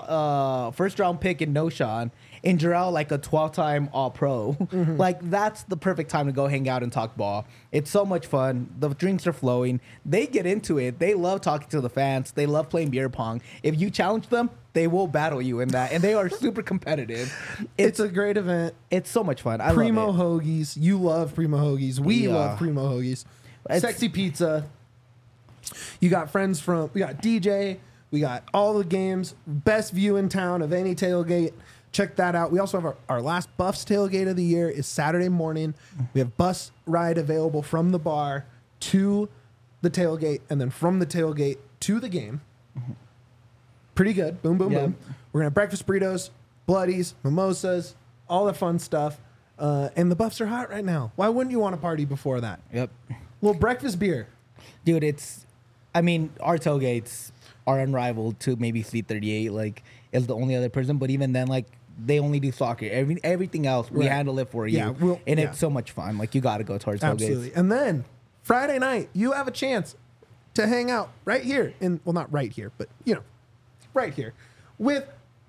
round pick in No Sean, and Jarrell, like a 12-time All-Pro. Like, that's the perfect time to go hang out and talk ball. It's so much fun. The drinks are flowing. They get into it. They love talking to the fans. They love playing beer pong. If you challenge them, they will battle you in that, and they are super competitive. It's a great event. It's so much fun. I Primo love it. Hoagies. You love Primo Hoagies. We Yeah. love Primo Hoagies. It's- Sexy Pizza. You got friends we got DJ. We got all the games. Best view in town of any tailgate. Check that out. We also have our last Buffs tailgate of the year is Saturday morning. We have bus ride available from the bar to the tailgate and then from the tailgate to the game. Pretty good. Boom, boom, Yeah. boom. We're going to have breakfast burritos, bloodies, mimosas, all the fun stuff. And the Buffs are hot right now. Why wouldn't you want to party before that? Yep. Little breakfast beer. Dude, our tailgates are unrivaled to maybe Fleet 38, like, is the only other person. But even then, like, they only do soccer. Everything else, we Right. handle it for you. Yeah, and yeah. it's so much fun. Like, you got to go to our tailgates. Absolutely. And then Friday night, you have a chance to hang out right here not right here, but right here with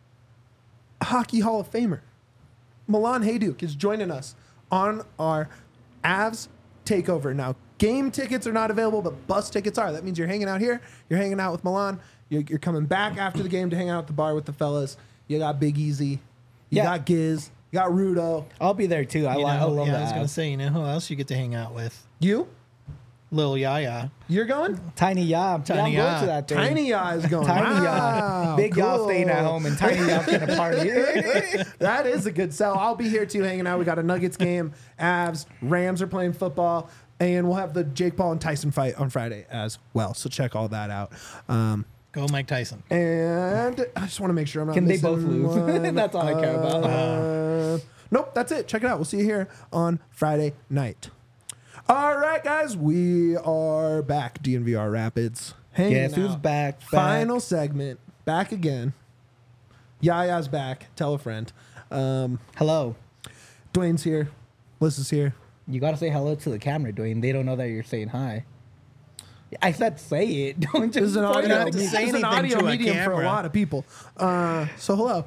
Hockey Hall of Famer. Milan Hajduk is joining us on our Avs takeover. Now, game tickets are not available, but bus tickets are. That means you're hanging out here. You're hanging out with Milan. You're coming back after the game to hang out at the bar with the fellas. You got Big Easy. You Yeah. got Giz. You got Rudo. I'll be there too. I love I was that. going to say, you know who else you get to hang out with? You? Lil Yaya. You're going? Tiny Yam. Tiny I'm going Ya. to that thing. Tiny Ya is going. Tiny Wow, Ya. Big Ya cool. staying at home and Tiny Ya gonna party. That is a good sell. I'll be here too, hanging out. We got a Nuggets game. Avs, Rams are playing football, and we'll have the Jake Paul and Tyson fight on Friday as well. So check all that out. Go Mike Tyson. And I just want to make sure I'm not. Can they missing both lose? one. That's all I care about. Nope, that's it. Check it out. We'll see you here on Friday night. All right, guys, we are back. DNVR Rapids. Hanging Guess who's out. back? Final segment. Back again. Yaya's back. Tell a friend. Hello. Dwayne's here. Liz is here. You gotta say hello to the camera, Dwayne. They don't know that you're saying hi. I said say it. Don't This is just an point audio, at have to me. say this is an anything audio to a medium for a camera. lot of people. So hello.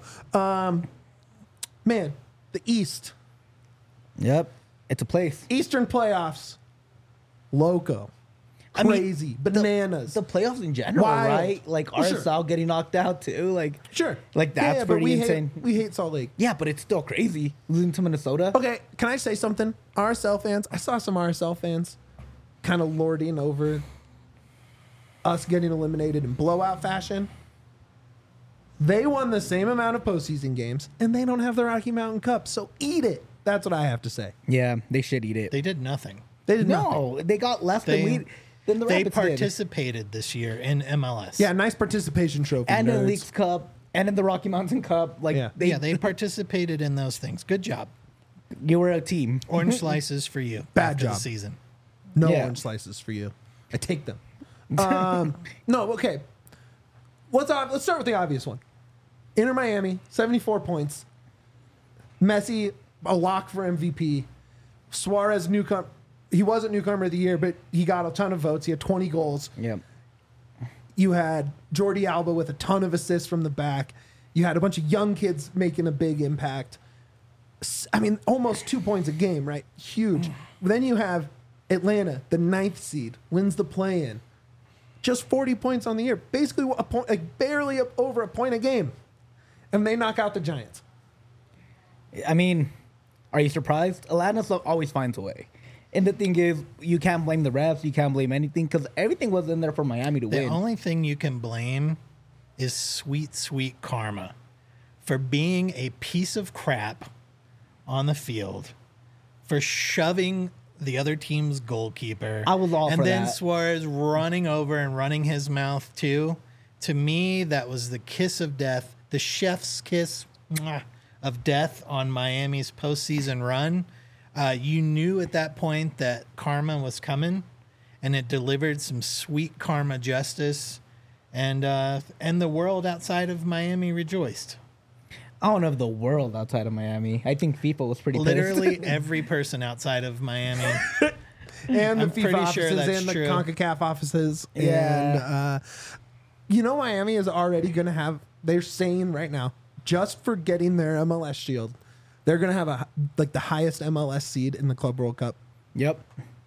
Man, the East. Yep, it's a place. Eastern playoffs. Loco. I mean, Crazy. Bananas. The playoffs in general, Wild. right? Like For sure. RSL getting knocked out too. Like Sure. Like, that's but pretty we insane. We hate Salt Lake. yeah, but it's still crazy losing to Minnesota. Okay, can I say something? RSL fans, I saw some RSL fans kind of lording over us getting eliminated in blowout fashion. They won the same amount of postseason games, and they don't have the Rocky Mountain Cup, so eat it. That's what I have to say. Yeah, they should eat it. They did nothing. They did nothing. No, they got less They- than the They Rapids did. participated this year in MLS. Yeah, nice participation trophy. And in nerds. the Leagues Cup and in the Rocky Mountain Cup. Like Yeah. They participated in those things. Good job. you were a team. Orange slices for you. Bad after job. the season. No Yeah. orange slices for you. I take them. No, okay. Let's start with the obvious one. Inter Miami, 74 points. Messi, a lock for MVP. Suarez, newcomer. He wasn't newcomer of the year, but he got a ton of votes. He had 20 goals. Yep. You had Jordi Alba with a ton of assists from the back. You had a bunch of young kids making a big impact. I mean, almost 2 points a game, right? Huge. Then you have Atlanta, the 9th seed, wins the play-in. Just 40 points on the year. Basically, a point, like barely over a point a game. And they knock out the Giants. I mean, are you surprised? Atlantis always finds a way. And the thing is, you can't blame the refs. You can't blame anything because everything was in there for Miami to The win. only thing you can blame is sweet, sweet karma for being a piece of crap on the field, for shoving the other team's goalkeeper. I was all and for then that. Suarez running over and running his mouth too. To me, that was the kiss of death, the chef's kiss of death on Miami's postseason run. You knew at that point that karma was coming, and it delivered some sweet karma justice, and the world outside of Miami rejoiced. I don't know if the world outside of Miami. I think FIFA was pretty Literally pissed. every person outside of Miami. And the I'm FIFA pretty offices sure that's and the true. CONCACAF offices. Yeah. And, Miami is already going to have, they're saying right now, just for getting their MLS shield, they're going to have the highest MLS seed in the Club World Cup. Yep.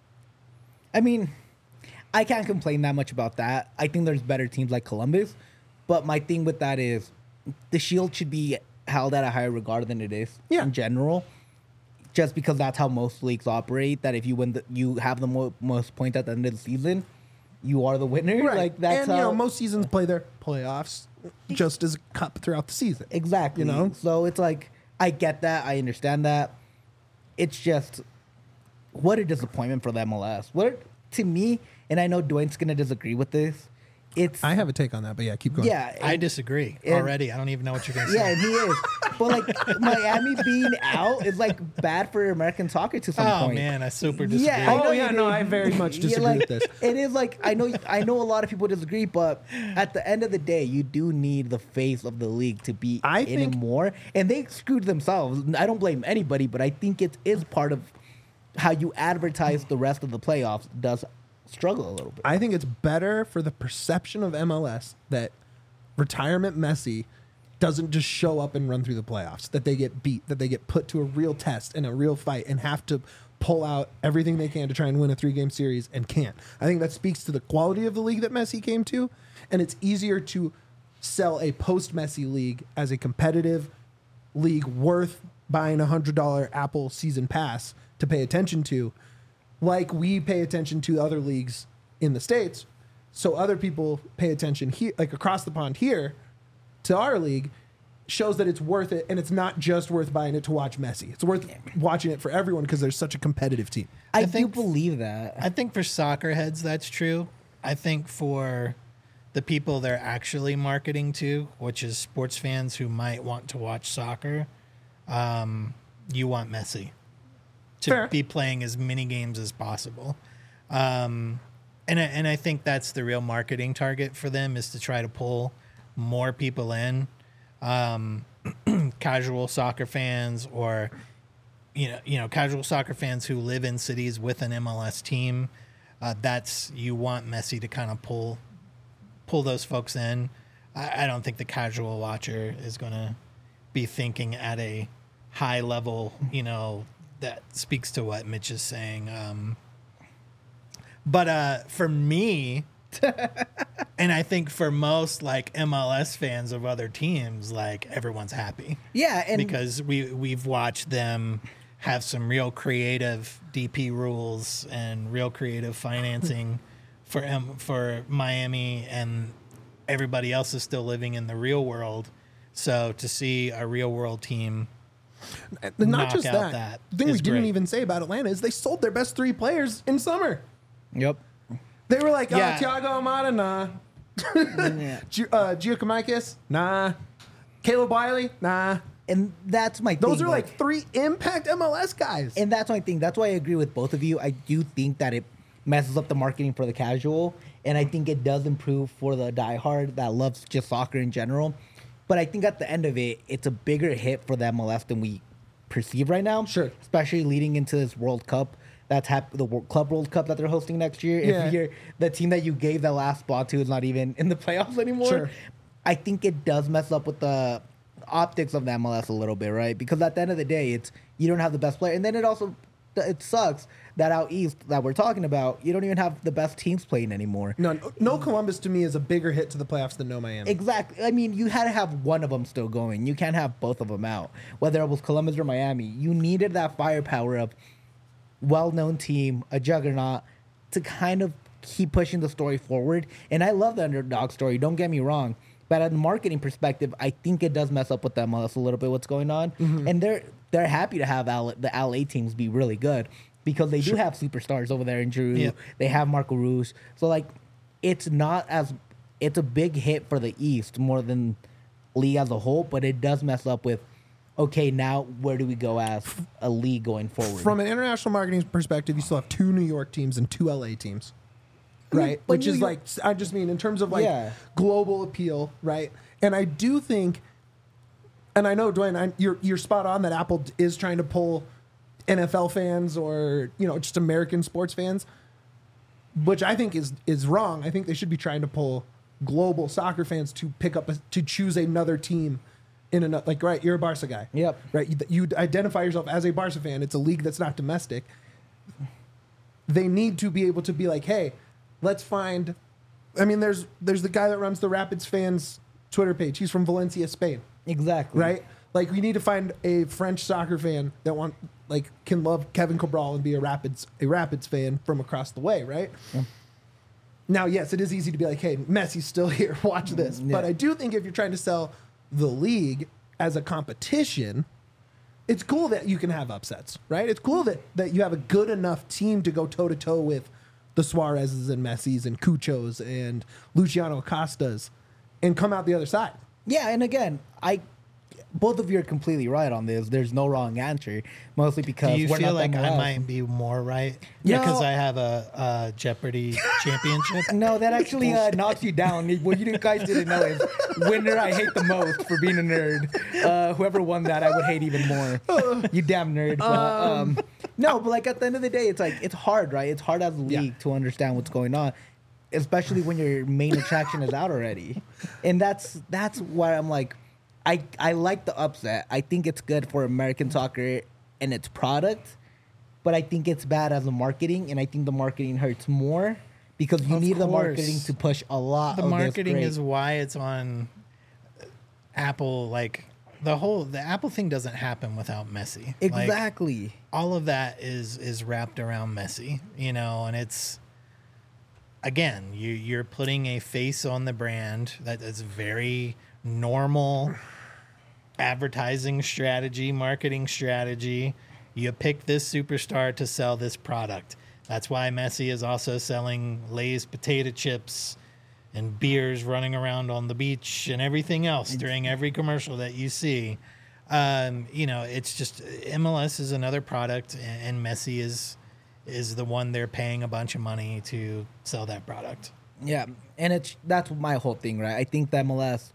I mean, I can't complain that much about that. I think there's better teams like Columbus. But my thing with that is the shield should be held at a higher regard than it is in general. Just because that's how most leagues operate. That if you win, you have the most points at the end of the season, you are the winner. Right. Like that's and, how most seasons play their playoffs just as a cup throughout the season. exactly. So it's like I get that, I understand that. It's just what a disappointment for the MLS. To me, and I know Dwayne's gonna disagree with this. I have a take on that, but yeah, keep going. Yeah, I disagree already. I don't even know what you're going to say. Yeah, and he is. But like Miami being out is like bad for American soccer to some Oh, point. man, I super disagree. Yeah, I know Oh, you yeah, do. no, I very much Yeah, disagree like, with this. It is like I know a lot of people disagree, but at the end of the day, you do need the face of the league to be I in think- it more. And they screwed themselves. I don't blame anybody, but I think it is part of how you advertise the rest of the playoffs does struggle a little bit. I think it's better for the perception of MLS that retirement Messi doesn't just show up and run through the playoffs, that they get beat, that they get put to a real test and a real fight and have to pull out everything they can to try and win a 3-game series and can't. I think that speaks to the quality of the league that Messi came to, and it's easier to sell a post-Messi league as a competitive league worth buying a $100 Apple season pass to pay attention to, like we pay attention to other leagues in the States. So other people pay attention here, like across the pond here, to our league, shows that it's worth it, and it's not just worth buying it to watch Messi. It's worth watching it for everyone because there's such a competitive team. I do think- believe that. I think for soccer heads, that's true. I think for the people they're actually marketing to, which is sports fans who might want to watch soccer, you want Messi to Fair. be playing as many games as possible. And I think that's the real marketing target for them, is to try to pull more people in, casual soccer fans, or casual soccer fans who live in cities with an MLS team. That's you want Messi to kind of pull those folks in. I don't think the casual watcher is going to be thinking at a high level, that speaks to what Mitch is saying. But for me, and I think for most like MLS fans of other teams, like everyone's happy. Yeah, and because we've watched them have some real creative DP rules and real creative financing for Miami, and everybody else is still living in the real world. So to see a real world team Not knock just out that. The thing we is didn't great. even say about Atlanta is they sold their best 3 players in summer. Yep. They were like, Yeah. Thiago Almada, nah. Yeah. Giacomakis, nah. Caleb Wiley, nah. And that's my thing. Those are like 3 impact MLS guys. And that's my thing. That's why I agree with both of you. I do think that it messes up the marketing for the casual, and I think it does improve for the diehard that loves just soccer in general. But I think at the end of it, it's a bigger hit for the MLS than we perceive right now. Sure. Especially leading into this World Cup. That's the Club World Cup that they're hosting next year. Yeah. If you're the team that you gave the last spot to is not even in the playoffs anymore. Sure. I think it does mess up with the optics of the MLS a little bit, right? Because at the end of the day, it's you don't have the best player, and then it sucks that out east that we're talking about, you don't even have the best teams playing anymore. No Columbus to me is a bigger hit to the playoffs than no Miami. Exactly. I mean, you had to have one of them still going. You can't have both of them out. Whether it was Columbus or Miami, you needed that firepower of well-known team, a juggernaut, to kind of keep pushing the story forward. And I love the underdog story. Don't get me wrong. But at a marketing perspective, I think it does mess up with the MLS a little bit. What's going on, and they're happy to have the LA teams be really good because they do have superstars over there in Drew. Yep. They have Marco Ruz. So like, it's a big hit for the East more than league as a whole. But it does mess up with, okay, now where do we go as a league going forward? From an international marketing perspective, you still have 2 New York teams and 2 LA teams. Right, but which is New like, I just mean in terms of like Yeah. global appeal, right? And I do think, and I know Dwayne, you're spot on that Apple is trying to pull NFL fans or just American sports fans, which I think is wrong. I think they should be trying to pull global soccer fans to pick up to choose another team in another. Like, right, you're a Barca guy. Yep. Right, you identify yourself as a Barca fan. It's a league that's not domestic. They need to be able to be like, hey, let's find. I mean, there's the guy that runs the Rapids fans Twitter page. He's from Valencia, Spain. Exactly. Right? Like, we need to find a French soccer fan that can love Kevin Cabral and be a Rapids fan from across the way, right? Yeah. Now, yes, it is easy to be like, hey, Messi's still here. Watch this. Yeah. But I do think if you're trying to sell the league as a competition, it's cool that you can have upsets, right? It's cool that you have a good enough team to go toe-to-toe with the Suarez's and Messi's and Cuchos and Luciano Acosta's and come out the other side. Yeah, and again, both of you are completely right on this. There's no wrong answer, mostly because Do you we're feel not like I MLS. might be more right? No. Because I have a Jeopardy championship. No, that actually knocks you down. What you guys didn't know is winner I hate the most for being a nerd. Whoever won that, I would hate even more. You damn nerd. But, no, but like at the end of the day, it's like it's hard, right? It's hard as a league to understand what's going on, especially when your main attraction is out already. And that's why I'm like, I like the upset. I think it's good for American soccer and its product, but I think it's bad as a marketing, and I think the marketing hurts more because you Of need the course. marketing to push a lot The of this marketing great- is why it's on Apple. Like the Apple thing doesn't happen without Messi. Like, Exactly. all of that is wrapped around Messi, and it's again you're putting a face on the brand that is very normal advertising strategy, marketing strategy. You pick this superstar to sell this product. That's why Messi is also selling Lay's potato chips and beers running around on the beach and everything else during every commercial that you see. It's just MLS is another product, and Messi is the one they're paying a bunch of money to sell that product. Yeah, and that's my whole thing, right? I think the MLS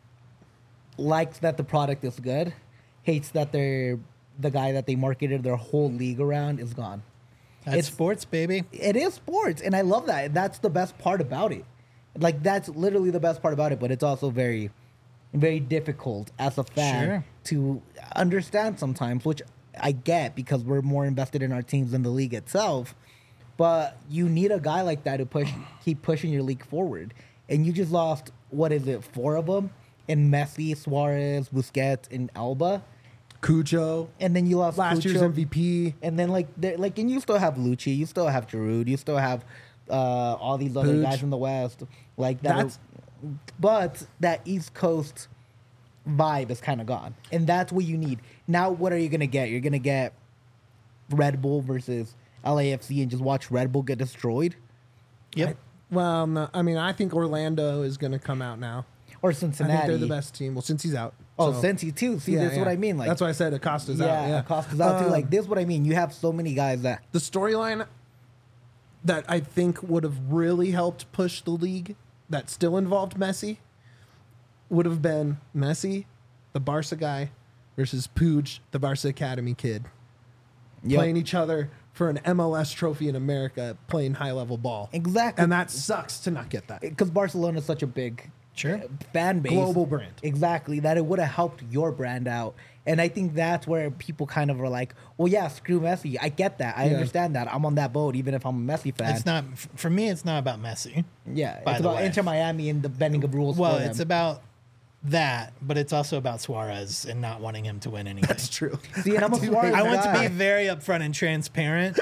likes that the product is good, hates that the guy that they marketed their whole league around is gone. That's sports, baby. It is sports, and I love that. That's the best part about it. Like, that's literally the best part about it, but it's also very, very difficult as a fan Sure. to understand sometimes, which I get because we're more invested in our teams than the league itself. But you need a guy like that to keep pushing your league forward. And you just lost, what is it, 4 of them? In Messi, Suarez, Busquets, and Alba. Cujo, And then you lost last year's Cucho. MVP. And then and you still have Lucci, you still have Giroud, you still have all these other Puig. guys in the West, like that. That's- But that East Coast vibe is kind of gone, and that's what you need now. What are you gonna get? You're gonna get Red Bull versus LAFC, and just watch Red Bull get destroyed, Yep. Well, no, I mean, I think Orlando is going to come out now. or I Cincinnati. think they're the best team. Well, since he's out. Oh, so- Cincy too. See, Yeah, that's what yeah. I mean. Like that's why I said Acosta's out. Yeah, Acosta's out too. Like this, is what I mean. You have so many guys that the storyline that I think would have really helped push the league that still involved Messi would have been Messi, the Barca guy, versus Puig, the Barca Academy kid, playing each other for an MLS trophy in America, playing high level ball. Exactly. And that sucks to not get that. because Barcelona is such a big Sure. fan base, Global brand. Exactly, that it would have helped your brand out. And I think that's where people kind of are like, well, yeah, screw Messi. I get that. I Yeah. understand that. I'm on that boat, even if I'm a Messi fan. It's not for me. It's not about Messi. Yeah, by it's the about way. Inter Miami and the bending of rules. Well, for it's them. about that, but it's also about Suarez and not wanting him to win anything. That's true. See, and I'm a do Suarez hate I want to guy. be very upfront and transparent.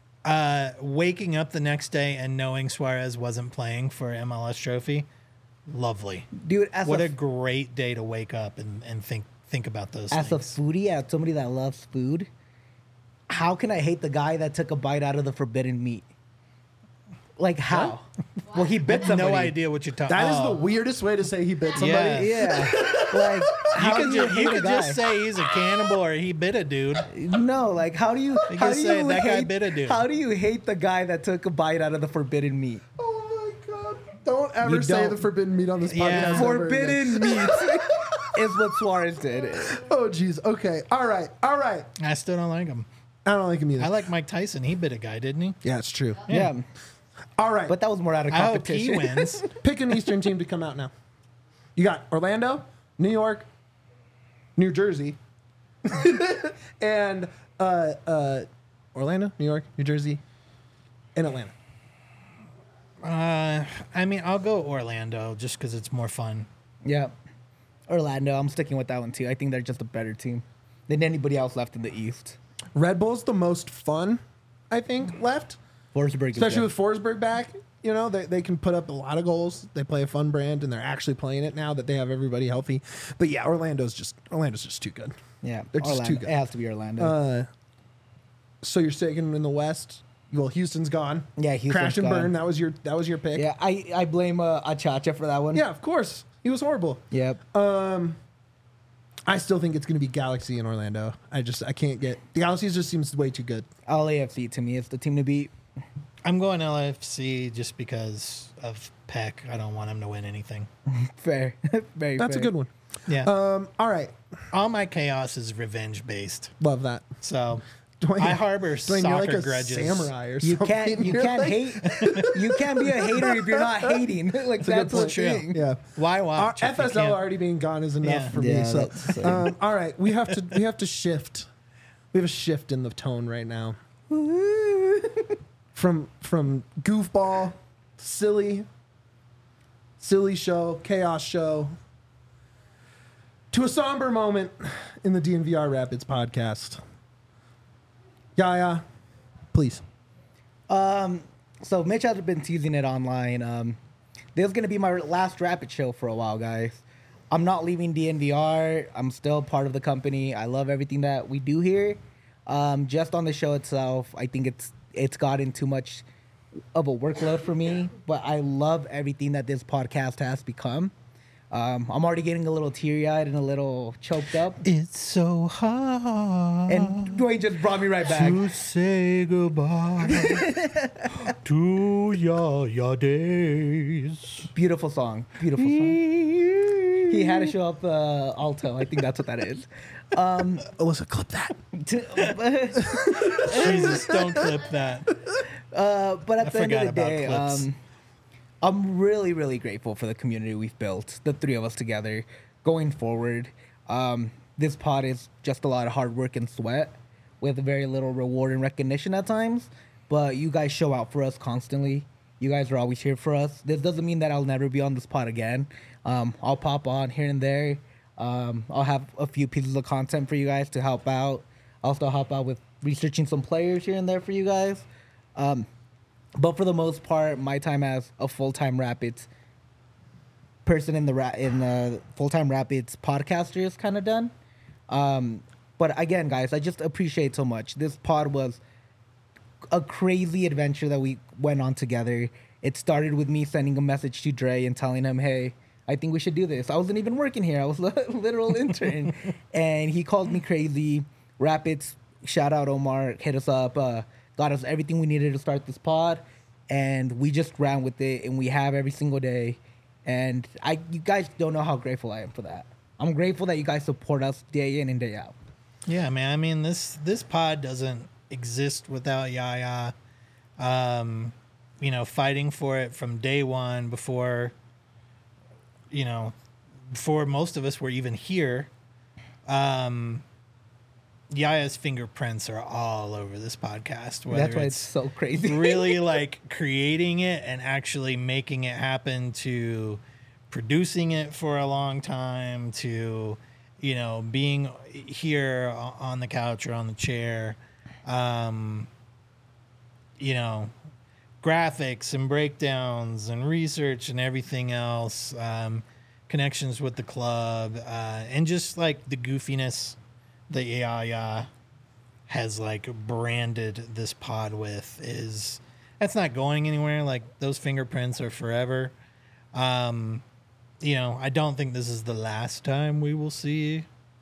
Waking up the next day and knowing Suarez wasn't playing for MLS trophy, lovely. Dude, as What a a great day to wake up and think about those as a things. foodie, as somebody that loves food, how can I hate the guy that took a bite out of the forbidden meat? Like how? Well, he bit somebody. No idea what you're talking. That is the weirdest way to say he bit somebody. Yeah. Yeah, like how do you hate You a could guy? just say he's a cannibal or he bit a dude. No, like how do you? You How can do say you that guy hate? bit a dude. How do you hate the guy that took a bite out of the forbidden meat? Oh my God. Don't ever You say don't. the forbidden meat on this podcast. Yeah. ever again. Forbidden meat is what Suarez did. Oh, jeez. Okay. All right. All right. I still don't like him. I don't like him either. I like Mike Tyson. He bit a guy, didn't he? Yeah, it's true. Yeah, All right. but that was more out of I hope he competition. wins. Pick an Eastern team to come out now. You got Orlando, New York, New Jersey, and Orlando, New York, New Jersey, and Atlanta. I mean, I'll go Orlando just because it's more fun. Yeah, Orlando. I'm sticking with that one too. I think they're just a better team than anybody else left in the East. Red Bull's the most fun, I think, left. Forsberg, is Especially good. with Forsberg back. You know, they can put up a lot of goals. They play a fun brand, and they're actually playing it now that they have everybody healthy. But yeah, Orlando's just too good. Yeah, They're just Orlando. too good. It has to be Orlando. So you're sticking in the West. Well, Houston's gone. Yeah, Houston's Crash and gone. burn. That was your pick. yeah, I blame Achacha for that one. Yeah, of course. He was horrible. Yep. I still think it's going to be Galaxy in Orlando. I can't get the Galaxy just seems way too good. LAFC to me is the team to beat. I'm going LFC just because of Peck. I don't want him to win anything. Fair. Very That's fair. a good one. Yeah. All right. All my chaos is revenge based. Love that. So Dwayne, I harbor Dwayne, soccer you're like a grudges. samurai or You something. can't You're like- hate. You can't be a hater if you're not hating. Like that's good the point. thing. Yeah. Why Our watch? if you FSL can't- already being gone is enough Yeah. for Yeah, me. So, that's the same. all right, we have to shift. We have a shift in the tone right now. From goofball, silly show, chaos show, to a somber moment in the DNVR Rapids podcast. Yaya, please. So Mitch has been teasing it online. This is gonna be my last Rapid show for a while, guys. I'm not leaving DNVR. I'm still part of the company. I love everything that we do here. Just on the show itself, I think it's gotten too much of a workload for me. But I love everything that this podcast has become. I'm already getting a little teary-eyed and a little choked up. It's so hard. And Dwayne just brought me right back. To say goodbye to your days. Beautiful song. Beautiful song. He had to show up alto. I think that's what that is. Alyssa, clip that. Jesus, don't clip that. But at the end of the forgot about day, clips. I'm really, really grateful for the community we've built, the three of us together, going forward. This pod is just a lot of hard work and sweat with very little reward and recognition at times. But you guys show out for us constantly. You guys are always here for us. This doesn't mean that I'll never be on this pod again. I'll pop on here and there. I'll have a few pieces of content for you guys to help out. I'll still help out with researching some players here and there for you guys. But for the most part, my time as a full-time Rapids person in the full-time Rapids podcaster is kind of done. But again, guys, I just appreciate so much. This pod was a crazy adventure that we went on together. It started with me sending a message to Dre and telling him, hey, I think we should do this. I wasn't even working here. I was a literal intern. And he called me crazy. Rapids, shout out Omar, hit us up, got us everything we needed to start this pod. And we just ran with it, and we have every single day. And you guys don't know how grateful I am for that. I'm grateful that you guys support us day in and day out. Yeah, man. I mean, this pod doesn't exist without Yaya. Fighting for it from day one before most of us were even here. Yaya's fingerprints are all over this podcast. That's why it's so crazy. Really like creating it and actually making it happen, to producing it for a long time, to, being here on the couch or on the chair, graphics and breakdowns and research and everything else, connections with the club, and just like the goofiness that Yaya has like branded this pod with that's not going anywhere. Like, those fingerprints are forever. I don't think this is the last time we will see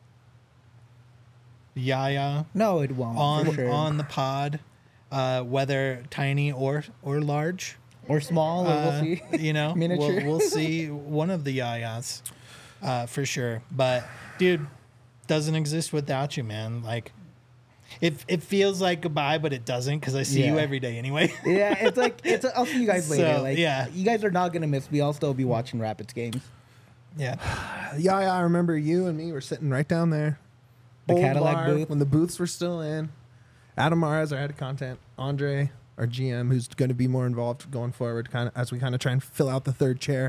Yaya No, it won't. for sure. on the pod, whether tiny or large. Or small, or we'll see. Miniature. We'll see one of the Yayas for sure. But dude, doesn't exist without you, man. Like, it feels like goodbye, but it doesn't, because I see you every day anyway. Yeah, it's like I'll see you guys later. So, yeah. You guys are not gonna miss me. I'll still be watching Rapids games. Yeah. Yeah, I remember you and me were sitting right down there. The Old Cadillac bar, booth. when the booths were still in. Adam Mares, our head of content. Andre, our GM, who's going to be more involved going forward, kind of as we kind of try and fill out the third chair.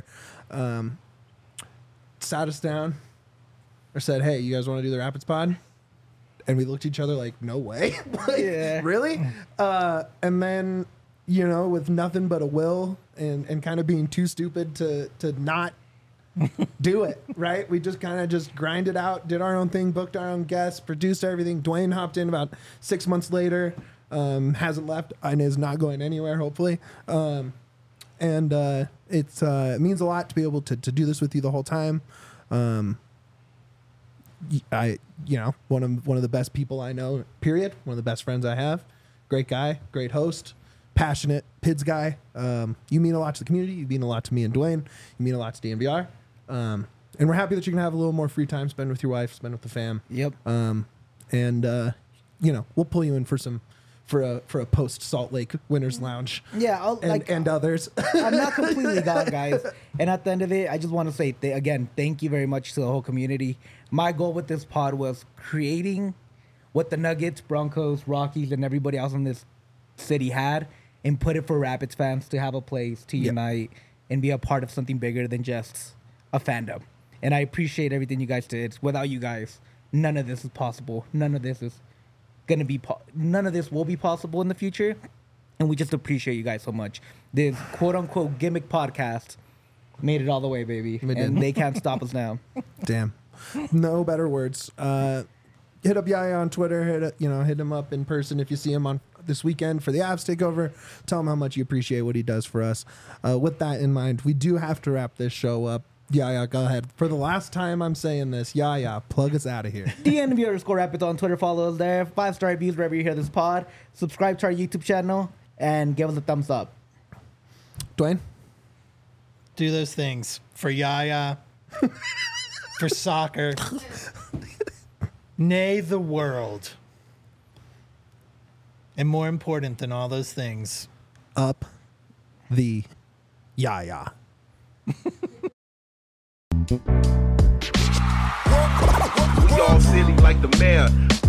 Sat us down, or said, "Hey, you guys want to do the Rapids pod?" And we looked at each other like, "No way!" Like, Yeah. really? And then, with nothing but a will and kind of being too stupid to not do it, right? We just kind of just grinded out, did our own thing, booked our own guests, produced everything. Dwayne hopped in about 6 months later, hasn't left and is not going anywhere, hopefully. And it means a lot to be able to do this with you the whole time. One of the best people I know, period. One of the best friends I have. Great guy, great host, passionate PIDS guy. You mean a lot to the community. You mean a lot to me and Dwayne. You mean a lot to DNVR. And we're happy that you can have a little more free time, spend with your wife, spend with the fam. Yep. We'll pull you in for a post Salt Lake Winners Lounge. Yeah, and others. I'm not completely gone, guys. And at the end of it, I just want to say again, thank you very much to the whole community. My goal with this pod was creating what the Nuggets, Broncos, Rockies, and everybody else in this city had, and put it for Rapids fans to have a place to unite and be a part of something bigger than just a fandom. And I appreciate everything you guys did. Without you guys, none of this is possible. None of this will be possible in the future. And we just appreciate you guys so much. This quote unquote gimmick podcast made it all the way, baby. And they can't stop us now. Damn. No better words. Hit up Yaya on Twitter. Hit him up in person if you see him on this weekend for the Avs takeover. Tell him how much you appreciate what he does for us. With that in mind, we do have to wrap this show up. Yeah, go ahead. For the last time I'm saying this, plug us out of here. DNB_Rapids on Twitter. Follow us there. 5-star reviews wherever you hear this pod. Subscribe to our YouTube channel and give us a thumbs up. Dwayne? Do those things for Yaya, for soccer, nay, the world. And more important than all those things, up the Yaya. We all silly like the mayor.